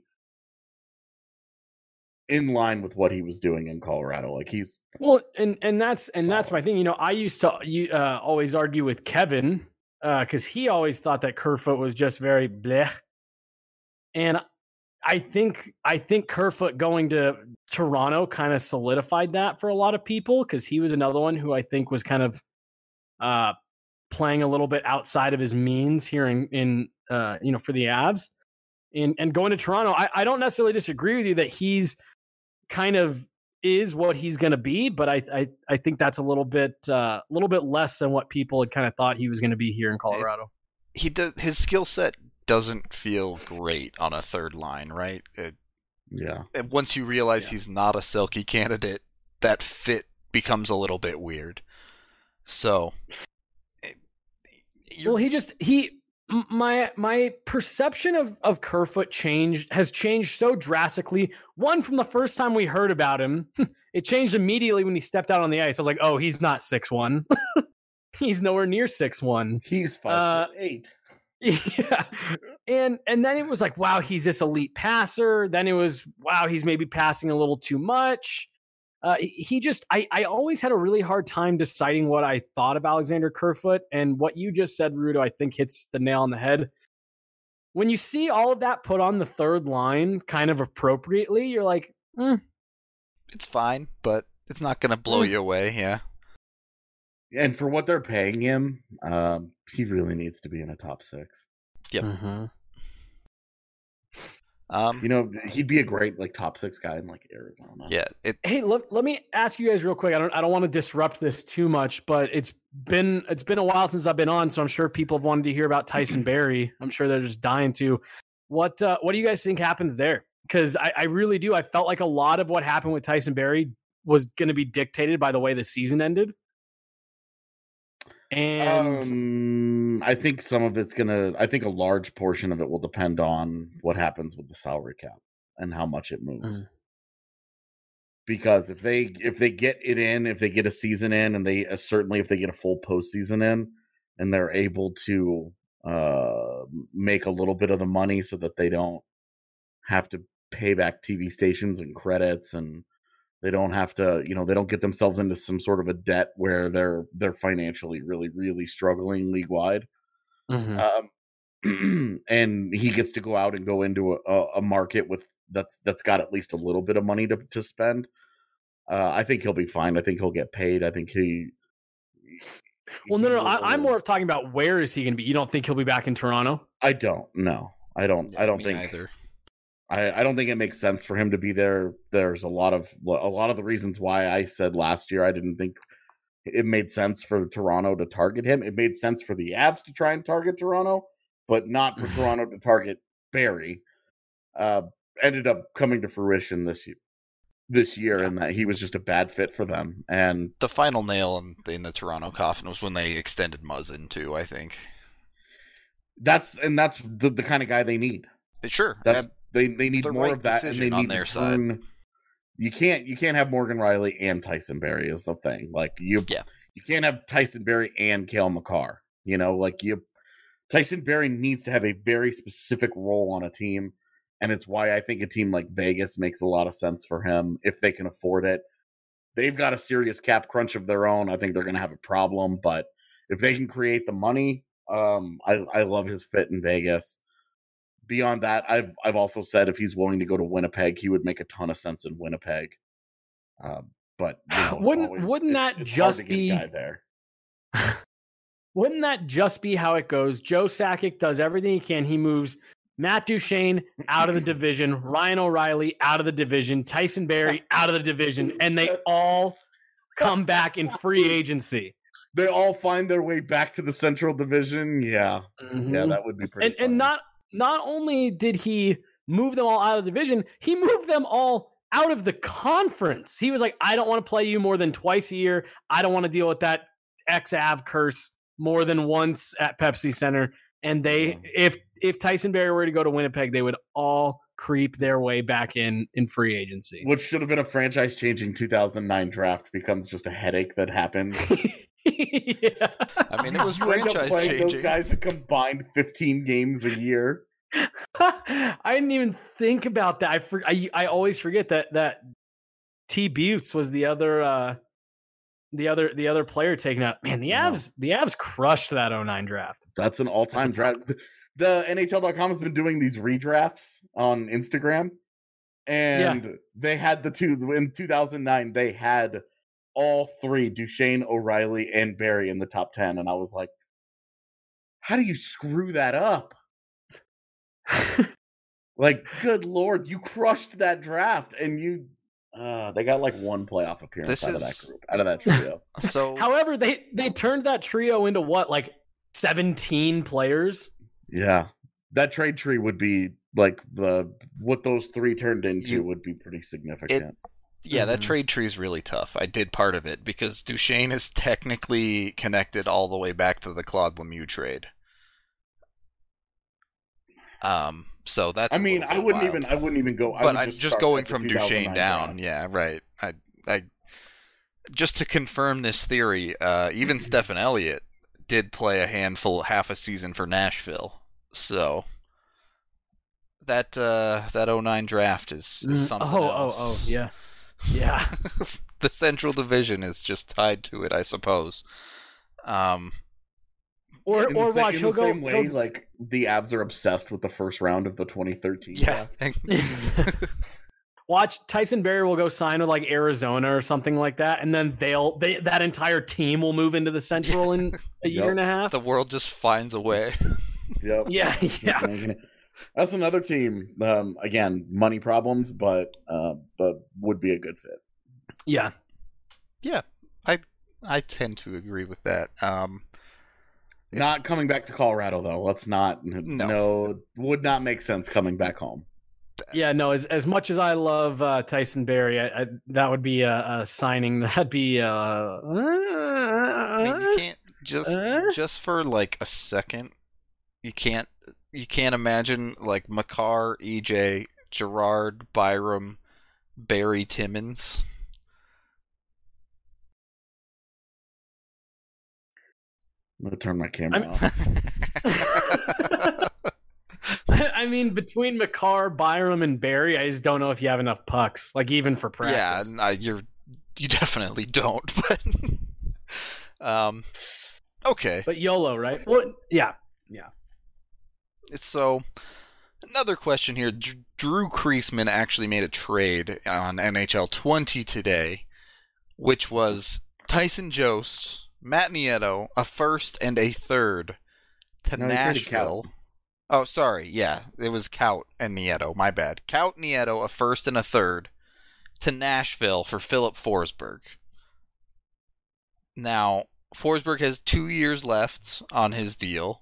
in line with what he was doing in Colorado. Like he's and that's my thing. You know, I used to always argue with Kevin because he always thought that Kerfoot was just very blech, and I think Kerfoot going to Toronto kind of solidified that for a lot of people because he was another one who I think was kind of playing a little bit outside of his means here in for the Avs, and going to Toronto. I don't necessarily disagree with you that he's kind of is what he's going to be, but I think that's a little bit less than what people had kind of thought he was going to be here in Colorado. His skill set doesn't feel great on a third line, right? And once you realize he's not a Selke candidate, that fit becomes a little bit weird. So, my perception of Kerfoot has changed so drastically. One, from the first time we heard about him, it changed immediately when he stepped out on the ice. I was like, oh, he's not 6'1". He's nowhere near 6'1". He's 5'8". Yeah. And then it was like, wow, he's this elite passer. Then it was, wow, he's maybe passing a little too much. I always had a really hard time deciding what I thought of Alexander Kerfoot, and what you just said, Rudo, I think hits the nail on the head. When you see all of that put on the third line kind of appropriately, you're like, it's fine, but it's not going to blow you away. Yeah. And for what they're paying him, he really needs to be in a top six. Yep. Mm-hmm. He'd be a great like top six guy in like Arizona. Yeah. Hey, let me ask you guys real quick. I don't want to disrupt this too much, but it's been a while since I've been on, so I'm sure people have wanted to hear about Tyson Barrie. I'm sure they're just dying to. What do you guys think happens there? Because I really do. I felt like a lot of what happened with Tyson Barrie was going to be dictated by the way the season ended. And I think some of it's I think a large portion of it will depend on what happens with the salary cap and how much it moves. Because if they get it in, if they get a season in, and they certainly if they get a full postseason in, and they're able to make a little bit of the money so that they don't have to pay back TV stations and credits, and they don't have to, they don't get themselves into some sort of a debt where they're financially really, really struggling league wide. Mm-hmm. And he gets to go out and go into a market that's got at least a little bit of money to spend. I think he'll be fine. I think he'll get paid. I think no. I'm more of talking about where is he going to be. You don't think he'll be back in Toronto? I don't. No, I don't. Yeah, I don't me think either. I don't think it makes sense for him to be there. There's a lot of the reasons why I said last year I didn't think it made sense for Toronto to target him. It made sense for the Avs to try and target Toronto, but not for Toronto to target Barrie. Ended up coming to fruition this year, and that he was just a bad fit for them. And the final nail in the Toronto coffin was when they extended Muzzin too, I think. That's the kind of guy they need. Sure. They need the more right of that, and they on need their to turn. You can't have Morgan Rielly and Tyson Barrie is the thing. Like you can't have Tyson Barrie and Cale Makar. Tyson Barrie needs to have a very specific role on a team, and it's why I think a team like Vegas makes a lot of sense for him if they can afford it. They've got a serious cap crunch of their own. I think they're going to have a problem, but if they can create the money, I love his fit in Vegas. Beyond that, I've also said if he's willing to go to Winnipeg, he would make a ton of sense in Winnipeg. But wouldn't that just be guy there? Wouldn't that just be how it goes? Joe Sakic does everything he can. He moves Matt Duchene out of the division, Ryan O'Reilly out of the division, Tyson Barrie out of the division, and they all come back in free agency. They all find their way back to the Central Division. Yeah, yeah, that would be pretty. And not only did he move them all out of the division, he moved them all out of the conference. He was like, I don't want to play you more than twice a year. I don't want to deal with that ex-Av curse more than once at Pepsi Center. And if Tyson Barrie were to go to Winnipeg, they would all creep their way back in free agency. Which should have been a franchise-changing 2009 draft becomes just a headache that happens. Yeah. I mean, it was You end up franchise playing changing. those guys a combined 15 games a year. I didn't even think about that. I always forget that T Butts was the other player taken out. Man, the Avs crushed that 09 draft. That's an all-time draft. The NHL.com has been doing these redrafts on Instagram, and they had the two in 2009. They had all three, Duchesne, O'Reilly, and Barrie in the top 10, and I was like, how do you screw that up? Like, good Lord, you crushed that draft, and they got like one playoff appearance out of that trio. So, however, they turned that trio into what, like 17 players? Yeah, that trade tree would be like what those three turned into would be pretty significant. That trade tree is really tough. I did part of it because Duchesne is technically connected all the way back to the Claude Lemieux trade. So that's. I mean, I wouldn't even go. But I'm just going from Duchesne down. Yeah, right. I just to confirm this theory, even Stephen Elliott did play half a season for Nashville. So that 09 draft is something else. Yeah. The Central Division is just tied to it, I suppose. Or watch, he'll go. Like the Avs are obsessed with the first round of the 2013 draft. Watch, Tyson Barrie will go sign with like Arizona or something like that, and then that entire team will move into the Central in a year and a half. The world just finds a way. Yep. Yeah. That's another team. Again, money problems, but would be a good fit. Yeah. I tend to agree with that. Not coming back to Colorado though. Let's not. No, would not make sense coming back home. Yeah, no. As much as I love Tyson Barrie, that would be a signing. That'd be. I mean, you can't just for like a second. You can't imagine like Makar, EJ, Gerard, Byram, Barrie, Timmins. I'm gonna turn my camera off. I mean, between Makar, Byram, and Barrie, I just don't know if you have enough pucks, like even for practice. Yeah, you definitely don't. But okay. But YOLO, right? Well, yeah. So another question here. Drew Kreisman actually made a trade on NHL 20 today, which was Tyson Jost, Matt Nieto, a first and a third to Nashville. Oh, sorry. Yeah, it was Kaut and Nieto. My bad. Kaut, Nieto, a first and a third to Nashville for Philip Forsberg. Now, Forsberg has 2 years left on his deal.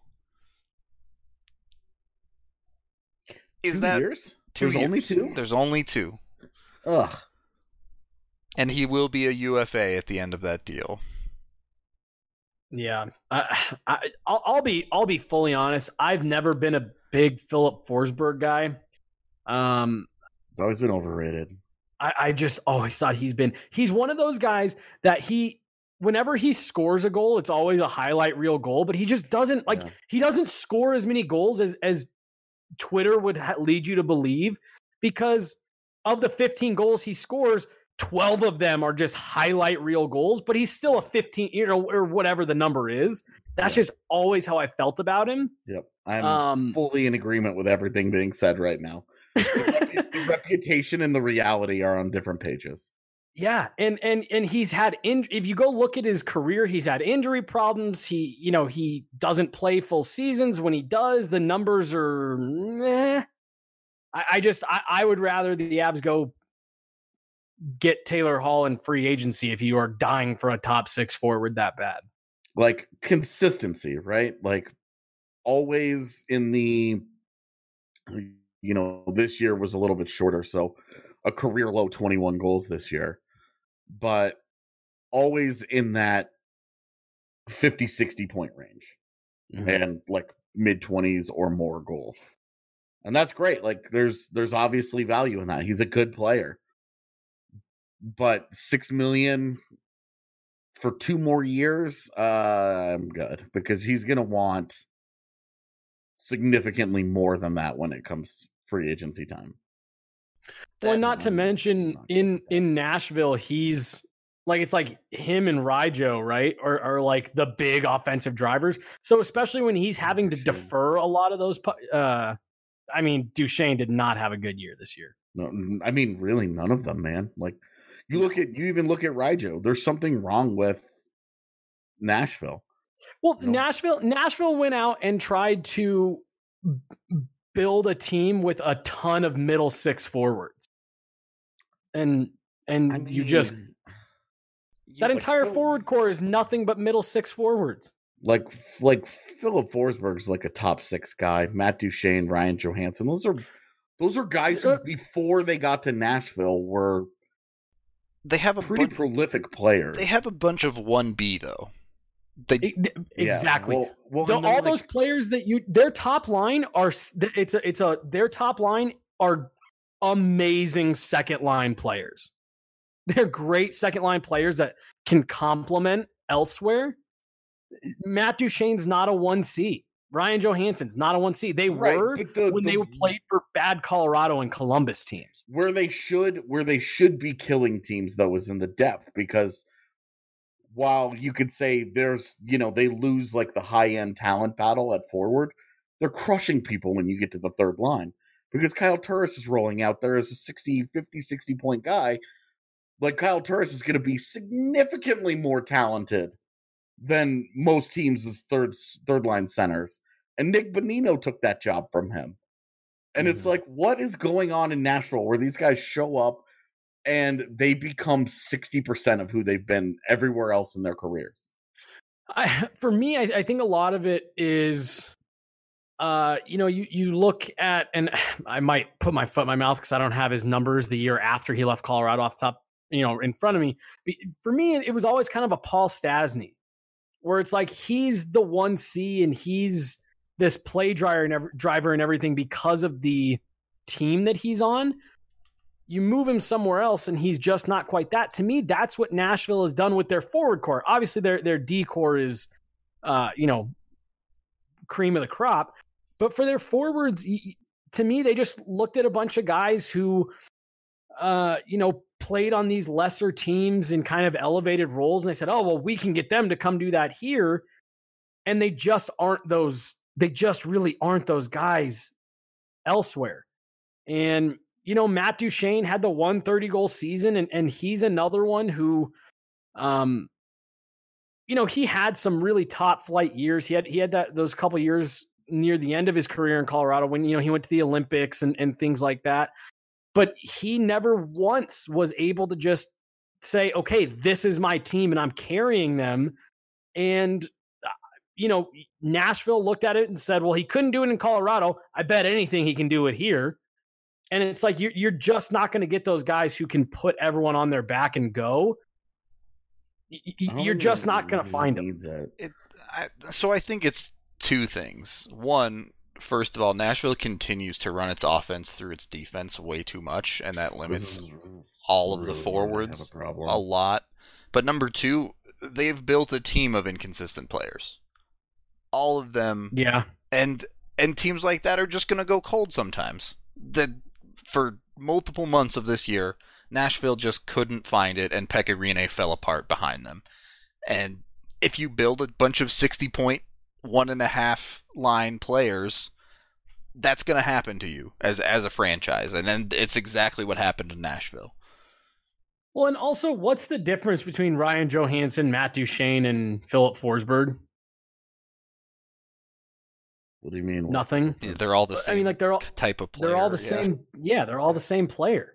Is that 2 years? There's only 2? There's only 2. Ugh. And he will be a UFA at the end of that deal. Yeah, I'll be fully honest. I've never been a big Philip Forsberg guy. He's always been overrated. I just always thought he's one of those guys that whenever he scores a goal, it's always a highlight reel goal, but he just doesn't he doesn't score as many goals as Twitter would lead you to believe, because of the 15 goals he scores, 12 of them are just highlight reel goals, but he's still a 15, or whatever the number is. That's just always how I felt about him. Yep. I'm fully in agreement with everything being said right now. The reputation and the reality are on different pages. Yeah. And he's had, if you go look at his career, he's had injury problems. He doesn't play full seasons. When he does, the numbers are meh. I would rather the Avs go get Taylor Hall in free agency if you are dying for a top 6 forward that bad. Like consistency, right? Like always in the, this year was a little bit shorter. So a career low 21 goals this year, but always in that 50-60 point range and like mid 20s or more goals. And that's great. Like there's obviously value in that. He's a good player. But $6 million for 2 more years, I'm good, because he's going to want significantly more than that when it comes free agency time. Well, not to mention in Nashville, he's like, it's like him and Rijo, right? Are like the big offensive drivers. So especially when he's having to defer a lot of those, I mean, Duchesne did not have a good year this year. No, I mean, really none of them, man. Like you even look at Rijo. There's something wrong with Nashville. Well, Nashville went out and tried to build a team with a ton of middle six forwards. And I mean, that entire forward core is nothing but middle six forwards. Like Philip Forsberg's like a top 6 guy. Matt Duchesne, Ryan Johansson. Those are guys who before they got to Nashville were pretty prolific players. They have a bunch of 1B though. Exactly. Well, all those players that their top line are their top line are amazing second line players. They're great second line players that can complement elsewhere. Matt Duchene's not a 1C. Ryan Johansson's not a 1C. They were when they played for bad Colorado and Columbus teams. Where they should be killing teams though is in the depth, because while you could say there's, they lose like the high-end talent battle at forward, they're crushing people when you get to the third line, because Kyle Turris is rolling out there as a 60 point guy. Like Kyle Turris is going to be significantly more talented than most teams' third line centers. And Nick Bonino took that job from him. And it's like, what is going on in Nashville where these guys show up and they become 60% of who they've been everywhere else in their careers? For me, I think a lot of it is, you look at, and I might put my foot in my mouth because I don't have his numbers the year after he left Colorado off the top, in front of me. For me, it was always kind of a Paul Stastny, where it's like he's the 1C and he's this play driver and everything because of the team that he's on. You move him somewhere else and he's just not quite that. To me, that's what Nashville has done with their forward core. Obviously, their D core is, cream of the crop. But for their forwards, to me, they just looked at a bunch of guys who, played on these lesser teams in kind of elevated roles. And they said, oh, well, we can get them to come do that here. And they just really aren't those guys elsewhere. And, Matt Duchesne had the 130 goal season, and he's another one who, he had some really top flight years. He had those couple years near the end of his career in Colorado when, he went to the Olympics and things like that. But he never once was able to just say, okay, this is my team and I'm carrying them. And, Nashville looked at it and said, well, he couldn't do it in Colorado. I bet anything he can do it here. And it's like, you're just not going to get those guys who can put everyone on their back and go. You're just not going to find them. So I think it's two things. One, first of all, Nashville continues to run its offense through its defense way too much, and that limits all of the forwards a lot. But number two, they've built a team of inconsistent players. All of them. Yeah. And teams like that are just going to go cold sometimes. For multiple months of this year, Nashville just couldn't find it, and Pekka Rinne fell apart behind them. And if you build a bunch of 60-point, 1.5 line players, that's going to happen to you as a franchise. And then it's exactly what happened in Nashville. Well, and also, what's the difference between Ryan Johansson, Matt Duchesne, and Philip Forsberg? What do you mean? Nothing. Yeah, they're all the same. I mean, like they're all type of player. They're all the same. Yeah, they're all the same player.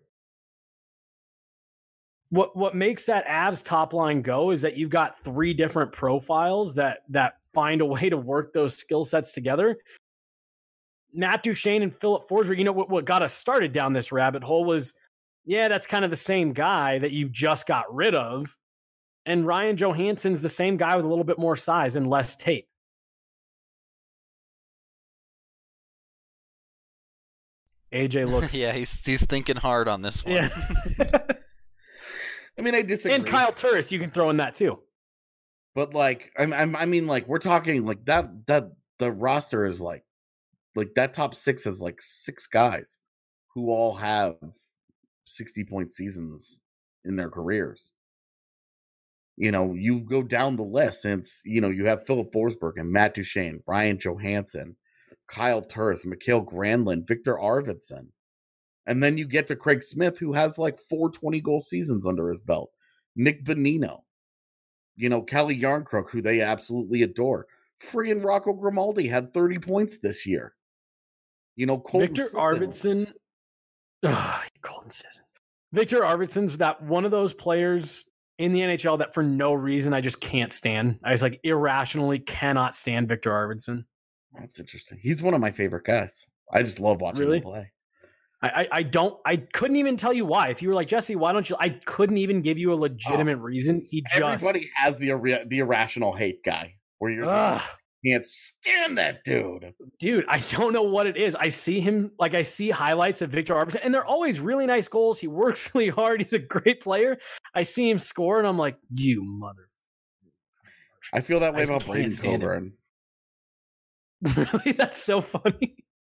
What makes that Avs top line go is that you've got 3 different profiles that find a way to work those skill sets together. Matt Duchesne and Philip Forsberg, what got us started down this rabbit hole was, that's kind of the same guy that you just got rid of. And Ryan Johansson's the same guy with a little bit more size and less tape. AJ looks. Yeah, he's thinking hard on this one. Yeah. I mean, I disagree. And Kyle Turris, you can throw in that too. But like, I mean, like we're talking like that the roster is like that top 6 is like 6 guys who all have 60-point seasons in their careers. You know, you go down the list and it's, you know, you have Philip Forsberg and Matt Duchene, Brian Johansson, Kyle Turris, Mikhail Granlund, Victor Arvidsson. And then you get to Craig Smith, who has like 4 20-goal seasons under his belt. Nick Bonino. You know, Kelly Yarncrook, who they absolutely adore. Friggin' Rocco Grimaldi had 30 points this year. You know, Colton Victor Sissons. Arvidsson. Colton Sissons. Victor Arvidsson's that one of those players in the NHL that for no reason I just can't stand. I just like irrationally cannot stand Victor Arvidsson. That's interesting. He's one of my favorite guys. I just love watching him play. I couldn't even tell you why. If you were like, Jesse, why don't you? I couldn't even give you a legitimate reason. Everybody has the irrational hate guy where you're just, can't stand that dude. Dude, I don't know what it is. I see him, like I see highlights of Victor Arvidsson, and they're always really nice goals. He works really hard. He's a great player. I see him score, and I'm like, you mother. I feel that way about Brayden Coburn. Really? That's so funny.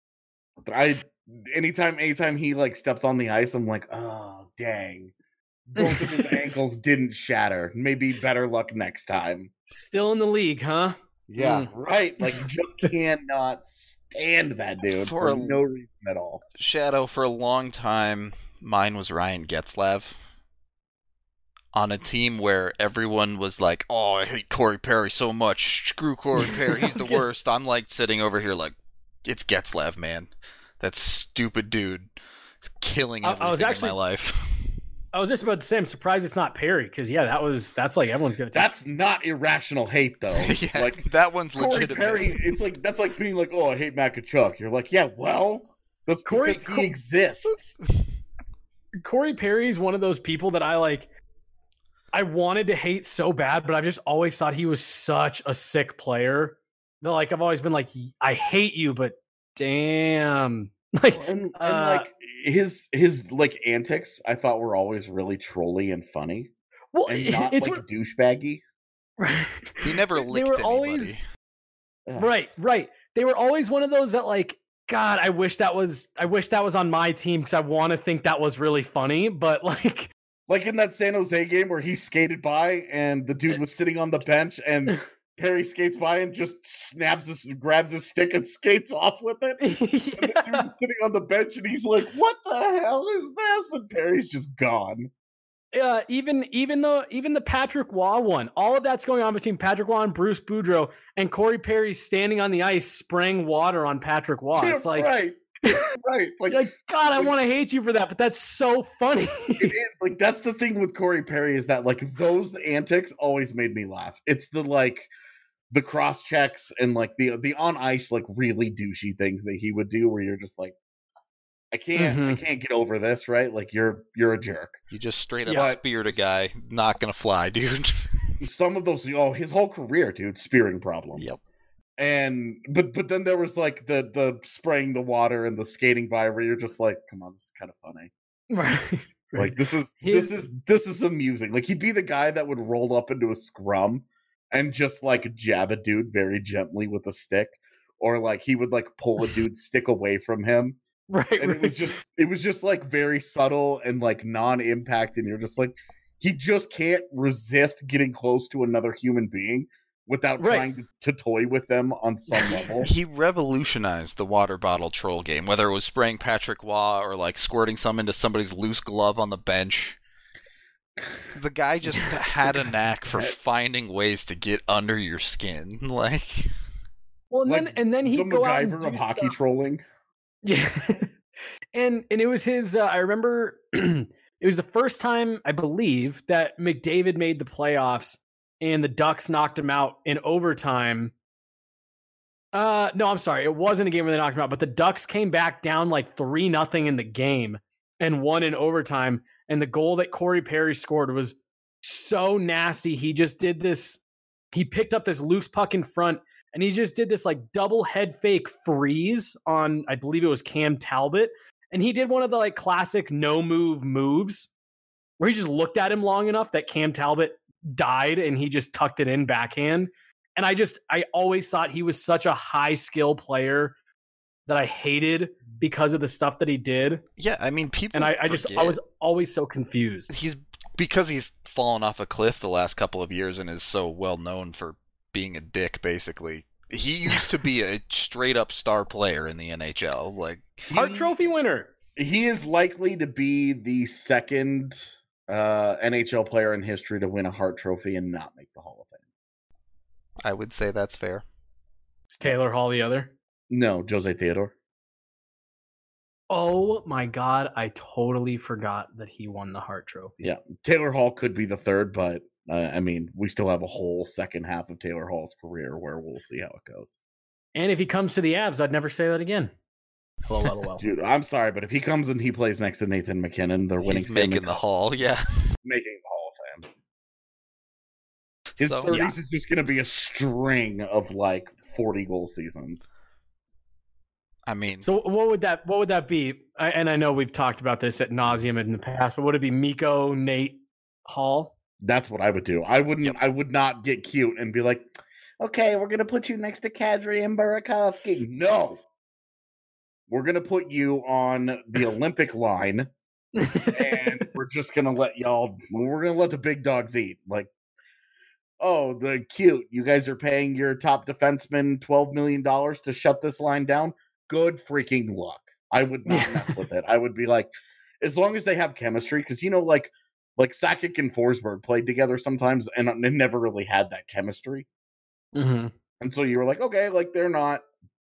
Anytime he like steps on the ice, I'm like, oh dang. Both of his ankles didn't shatter. Maybe better luck next time. Still in the league, huh? Yeah, right. Like, just cannot stand that dude for no reason at all. Shadow, for a long time, mine was Ryan Getzlaf. On a team where everyone was like, oh, I hate Corey Perry so much. Screw Corey Perry. He's the worst. I'm like sitting over here like, it's Getzlaf, man. That stupid dude is killing everything in my life. I was just about to say, I'm surprised it's not Perry, because that's like everyone's gonna. That's not irrational hate, though. Yeah, like that one's Corey legitimate. Perry, that's like being like, oh, I hate Matt Tkachuk. You're like, yeah, well, that's because he exists. Corey Perry's one of those people that I wanted to hate so bad, but I've just always thought he was such a sick player. That, like, I've always been like, I hate you, but damn, like, and like his like antics, I thought were always really trolly and funny. Well, and not like douchebaggy. Right. He never licked they were anybody. Always right. They were always one of those that like, God, I wish that was on my team because I want to think that was really funny, but like in that San Jose game where he skated by and the dude was sitting on the bench and Perry skates by and just grabs his stick and skates off with it. Yeah. And the dude's sitting on the bench and he's like, what the hell is this? And Perry's just gone. Even the Patrick Waugh one, all of that's going on between Patrick Waugh and Bruce Boudreau, and Corey Perry standing on the ice spraying water on Patrick Waugh. It's like, right. Like, God, I want to hate you for that, but that's so funny. It is, like, that's the thing with Corey Perry is that like those antics always made me laugh. It's the cross checks and like the on ice like really douchey things that he would do where you're just like, I can't get over this, right? Like you're a jerk. You just straight up speared a guy. Not gonna fly, dude. Some of those, his whole career, dude, spearing problems. Yep. And but then there was like the spraying the water and the skating by where you're just like, come on, this is kind of funny. Right. Like this is amusing. Like he'd be the guy that would roll up into a scrum and just like jab a dude very gently with a stick, or like he would like pull a dude's stick away from him. Right. And it was just like very subtle and like non-impact, and you're just like, he just can't resist getting close to another human being without trying to toy with them on some level. He revolutionized the water bottle troll game, whether it was spraying Patrick Waugh or like squirting some into somebody's loose glove on the bench. The guy just had a knack for finding ways to get under your skin. Like, well, and then he'd go out and do of hockey stuff. Trolling. Yeah. and it was his I remember it was the first time I believe that McDavid made the playoffs and the Ducks knocked him out in overtime. No, I'm sorry. It wasn't a game where they knocked him out, but the Ducks came back down like 3-0 in the game and won in overtime. And the goal that Corey Perry scored was so nasty. He just did this. He picked up this loose puck in front and he just did this like double head fake freeze on, I believe it was Cam Talbot. And he did one of the like classic no move moves where he just looked at him long enough that Cam Talbot died and he just tucked it in backhand. And I always thought he was such a high skill player that I hated because of the stuff that he did. Yeah, I mean, people. And I was always so confused. Because he's fallen off a cliff the last couple of years and is so well known for being a dick, basically. He used to be a straight up star player in the NHL. Like Hart Trophy winner. He is likely to be the second NHL player in history to win a Hart Trophy and not make the Hall of Fame. I would say that's fair. Is Taylor Hall the other? No, Jose Theodore. Oh my God, I totally forgot that he won the Hart Trophy. Yeah, Taylor Hall could be the third, but I mean, we still have a whole second half of Taylor Hall's career where we'll see how it goes. And if he comes to the Avs, I'd never say that again. LOL. Dude, I'm sorry, but if he comes and he plays next to Nathan McKinnon, they're winning. He's making the Hall, yeah. Making the Hall of Fame. His 30s is just going to be a string of like 40 goal seasons. I mean, so what would that be? And I know we've talked about this ad nauseum in the past, but would it be Mikko, Nate, Hall? That's what I would do. I wouldn't. Yep. I would not get cute and be like, "Okay, we're gonna put you next to Kadri and Burakovsky." No, we're gonna put you on the Olympic line, and we're just gonna let y'all. We're gonna let the big dogs eat. Like, oh, the cute. You guys are paying your top defenseman $12 million to shut this line down. Good freaking luck. I would not mess with it. I would be like, as long as they have chemistry, because like Sakic and Forsberg played together sometimes, and they never really had that chemistry. Mm-hmm. And so you were like, okay, like they're not.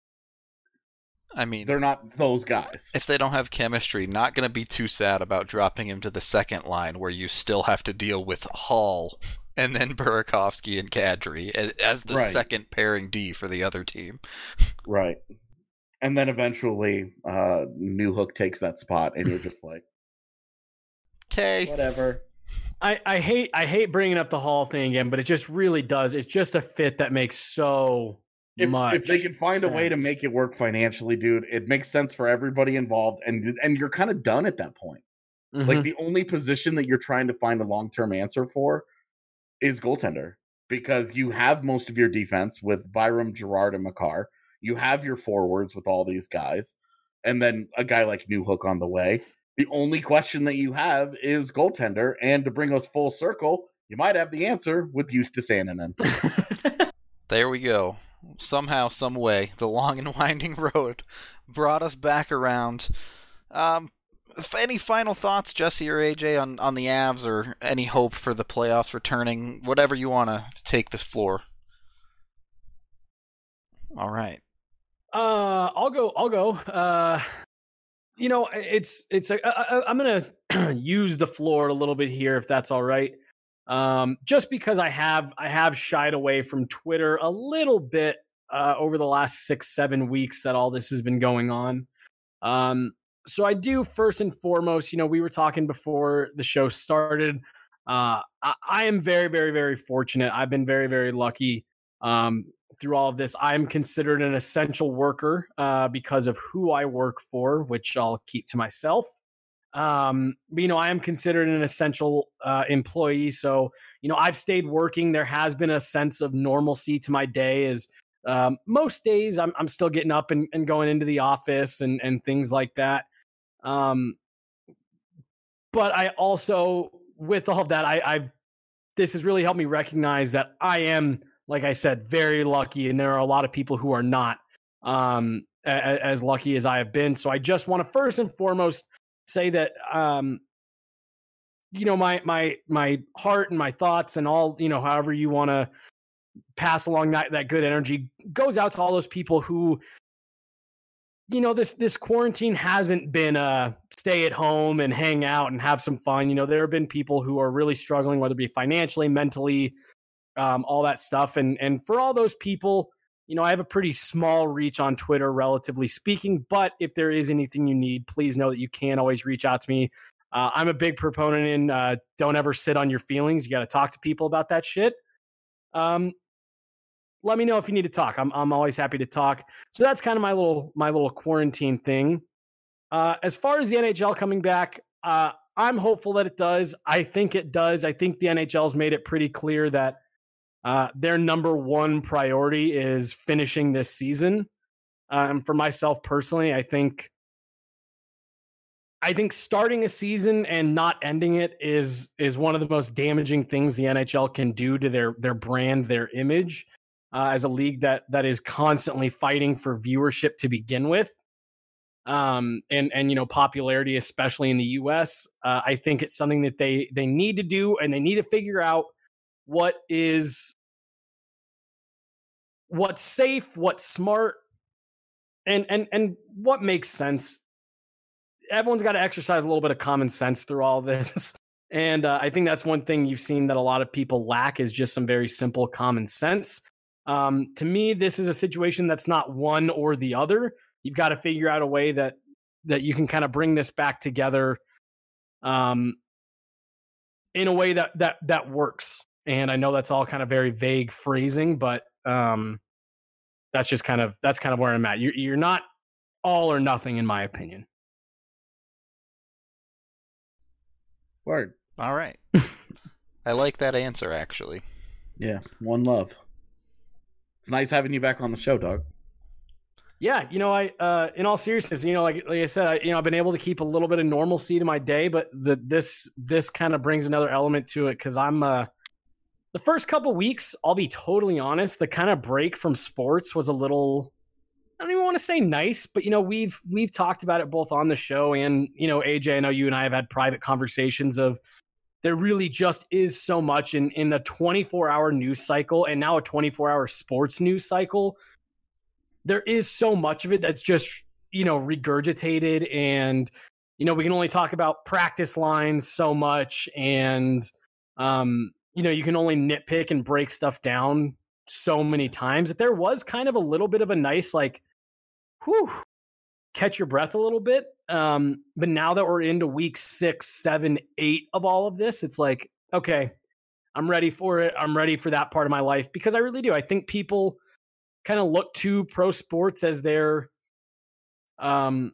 I mean, they're not those guys. If they don't have chemistry, not going to be too sad about dropping him to the second line, where you still have to deal with Hall and then Burakovsky and Kadri as the second pairing D for the other team. Right. And then eventually, Newhook takes that spot, and you're just like, okay, whatever. I hate bringing up the Hall thing again, but it just really does. It's just a fit that makes so much. If they can find a way to make it work financially, dude, it makes sense for everybody involved, and you're kind of done at that point. Mm-hmm. Like the only position that you're trying to find a long-term answer for is goaltender, because you have most of your defense with Byram, Girard, and Makar. You have your forwards with all these guys, and then a guy like Newhook on the way. The only question that you have is goaltender, and to bring us full circle, you might have the answer with Justus Annunen. There we go. Somehow, some way, the long and winding road brought us back around. Any final thoughts, Jesse or AJ, on the Avs, or any hope for the playoffs returning? Whatever you want to take this floor. All right. I'll go. I'm going to use the floor a little bit here, if that's all right. Just because I have shied away from Twitter a little bit over the last 6-7 weeks that all this has been going on. So I do, first and foremost, we were talking before the show started. I am very, very, very fortunate. I've been very, very lucky through all of this. I'm considered an essential worker because of who I work for, which I'll keep to myself. But, I am considered an essential employee. So, I've stayed working. There has been a sense of normalcy to my day, as most days I'm still getting up and going into the office and things like that. But I also, with all of that, this has really helped me recognize that I am, like I said, very lucky, and there are a lot of people who are not as lucky as I have been. So I just want to first and foremost say that, my heart and my thoughts and all, however you want to pass along that good energy goes out to all those people who, this quarantine hasn't been a stay at home and hang out and have some fun. There have been people who are really struggling, whether it be financially, mentally, all that stuff. And for all those people, I have a pretty small reach on Twitter, relatively speaking, but if there is anything you need, please know that you can always reach out to me. I'm a big proponent in don't ever sit on your feelings. You got to talk to people about that shit. Let me know if you need to talk. I'm always happy to talk. So that's kind of my little quarantine thing. As far as the NHL coming back, I'm hopeful that it does. I think it does. I think the NHL's made it pretty clear that their number one priority is finishing this season. And for myself personally, I think starting a season and not ending it is one of the most damaging things the NHL can do to their brand, their image, as a league that is constantly fighting for viewership to begin with. And popularity, especially in the US. I think it's something that they need to do, and they need to figure out what's safe, what's smart, and what makes sense. Everyone's got to exercise a little bit of common sense through all of this. And I think that's one thing you've seen that a lot of people lack is just some very simple common sense. To me, this is a situation that's not one or the other. You've got to figure out a way that you can kind of bring this back together in a way that works. And I know that's all kind of very vague phrasing, but that's kind of where I'm at. You're not all or nothing, in my opinion. Word. All right. I like that answer, actually. Yeah, one love. It's nice having you back on the show, Doug. Yeah, I in all seriousness, like I said, I've been able to keep a little bit of normalcy to my day, but this kind of brings another element to it because I'm the first couple weeks, I'll be totally honest, the kind of break from sports was a little, I don't even want to say nice, but we've talked about it both on the show and AJ, I know you and I have had private conversations of there really just is so much in a 24-hour news cycle and now a 24-hour sports news cycle. There is so much of it that's just, regurgitated and, we can only talk about practice lines so much and, you can only nitpick and break stuff down so many times that there was kind of a little bit of a nice, catch your breath a little bit. But now that we're into week 6, 7, 8 of all of this, it's like, okay, I'm ready for it. I'm ready for that part of my life because I really do. I think people kind of look to pro sports as their, kind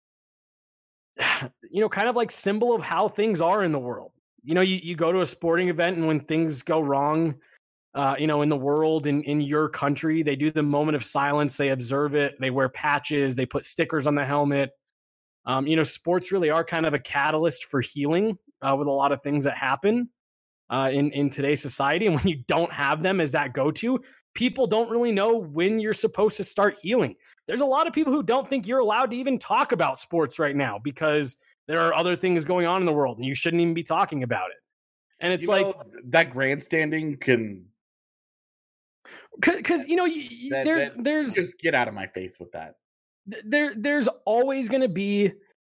of like symbol of how things are in the world. You go to a sporting event and when things go wrong, in the world, in your country, they do the moment of silence. They observe it. They wear patches. They put stickers on the helmet. Sports really are kind of a catalyst for healing with a lot of things that happen in today's society. And when you don't have them as that go-to, people don't really know when you're supposed to start healing. There's a lot of people who don't think you're allowed to even talk about sports right now because there are other things going on in the world and you shouldn't even be talking about it. And it's that grandstanding can, because there's just get out of my face with that. There's always going to be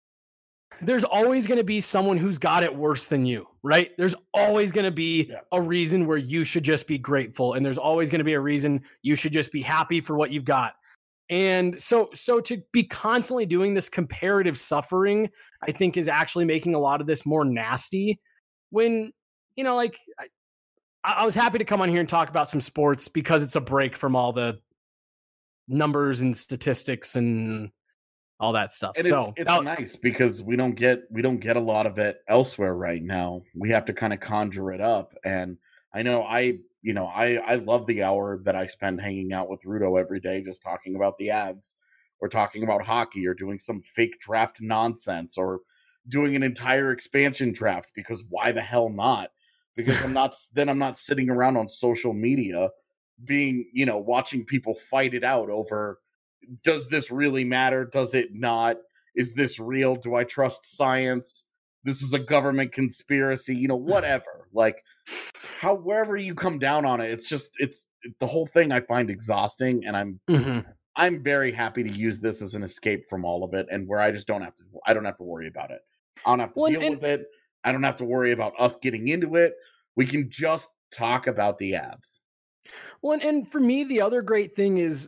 someone who's got it worse than you, right? There's always going to be a reason where you should just be grateful. And there's always going to be a reason you should just be happy for what you've got. And so to be constantly doing this comparative suffering, I think is actually making a lot of this more nasty when, I was happy to come on here and talk about some sports because it's a break from all the numbers and statistics and all that stuff. And so it's nice because we don't get a lot of it elsewhere right now. We have to kind of conjure it up. And I know I love the hour that I spend hanging out with Rudo every day, just talking about the Avs or talking about hockey or doing some fake draft nonsense or doing an entire expansion draft because why the hell not? Because I'm not sitting around on social media being, watching people fight it out over, does this really matter? Does it not? Is this real? Do I trust science? This is a government conspiracy, whatever. Wherever you come down on it, it's the whole thing I find exhausting. And I'm very happy to use this as an escape from all of it. And where I don't have to worry about it. I don't have to deal with it. I don't have to worry about us getting into it. We can just talk about the Avs. Well, and for me, the other great thing is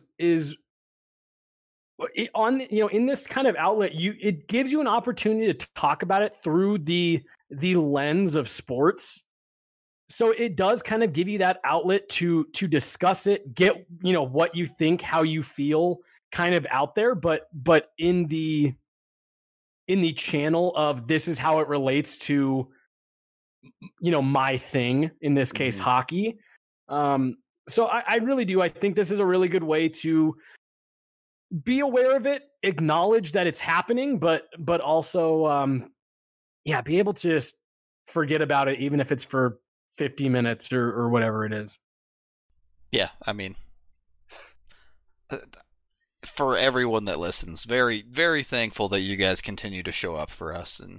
on in this kind of outlet, it gives you an opportunity to talk about it through the lens of sports. So it does kind of give you that outlet to discuss it, get what you think, how you feel, kind of out there, but in the in the channel of this is how it relates to, my thing, in this case, hockey. So I really do. I think this is a really good way to be aware of it, acknowledge that it's happening, but also, be able to just forget about it, even if it's for 50 minutes or whatever it is. Yeah, I mean, for everyone that listens, very, very thankful that you guys continue to show up for us. And,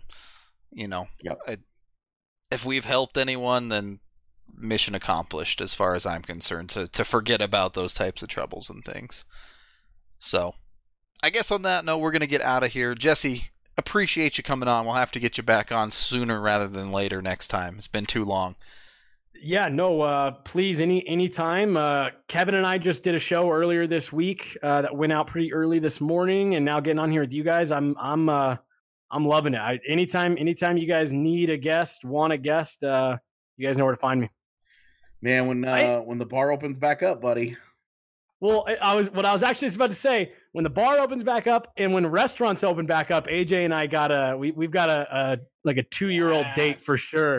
if we've helped anyone, then mission accomplished as far as I'm concerned, to forget about those types of troubles and things. So, I guess on that note, we're going to get out of here. Jesse, appreciate you coming on. We'll have to get you back on sooner rather than later next time. It's been too long. Yeah, no, please, anytime. Kevin and I just did a show earlier this week that went out pretty early this morning, and now getting on here with you guys, I'm loving it. Anytime you guys need a guest, want a guest, you guys know where to find me. Man, when the bar opens back up, buddy. Well, I was actually about to say, when the bar opens back up and when restaurants open back up, AJ and I we've got a 2-year-old date for sure.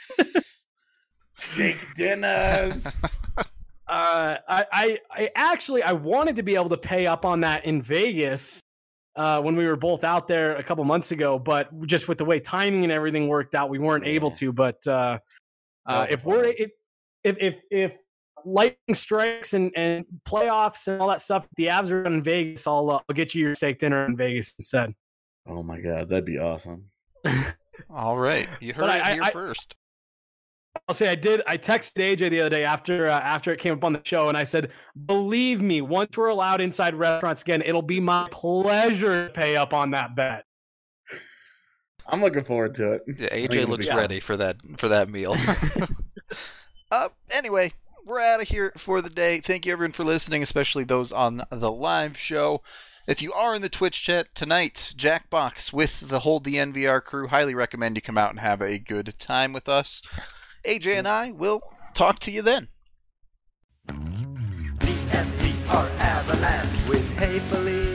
Steak dinners. I wanted to be able to pay up on that in Vegas when we were both out there a couple months ago, but just with the way timing and everything worked out, we weren't able to. But if lightning strikes and playoffs and all that stuff, the Avs are in Vegas, I'll get you your steak dinner in Vegas instead. Oh my God, that'd be awesome. All right, you heard it here first. I'll say I texted AJ the other day after it came up on the show, and I said, believe me, once we're allowed inside restaurants again, it'll be my pleasure to pay up on that bet. I'm looking forward to it. Yeah, AJ looks ready for that meal. Anyway, we're out of here for the day. Thank you everyone for listening, especially those on the live show. If you are in the Twitch chat tonight, Jackbox with the whole DNVR crew, highly recommend you come out and have a good time with us. AJ and I will talk to you then. DNVR Avalanche with Hayfully.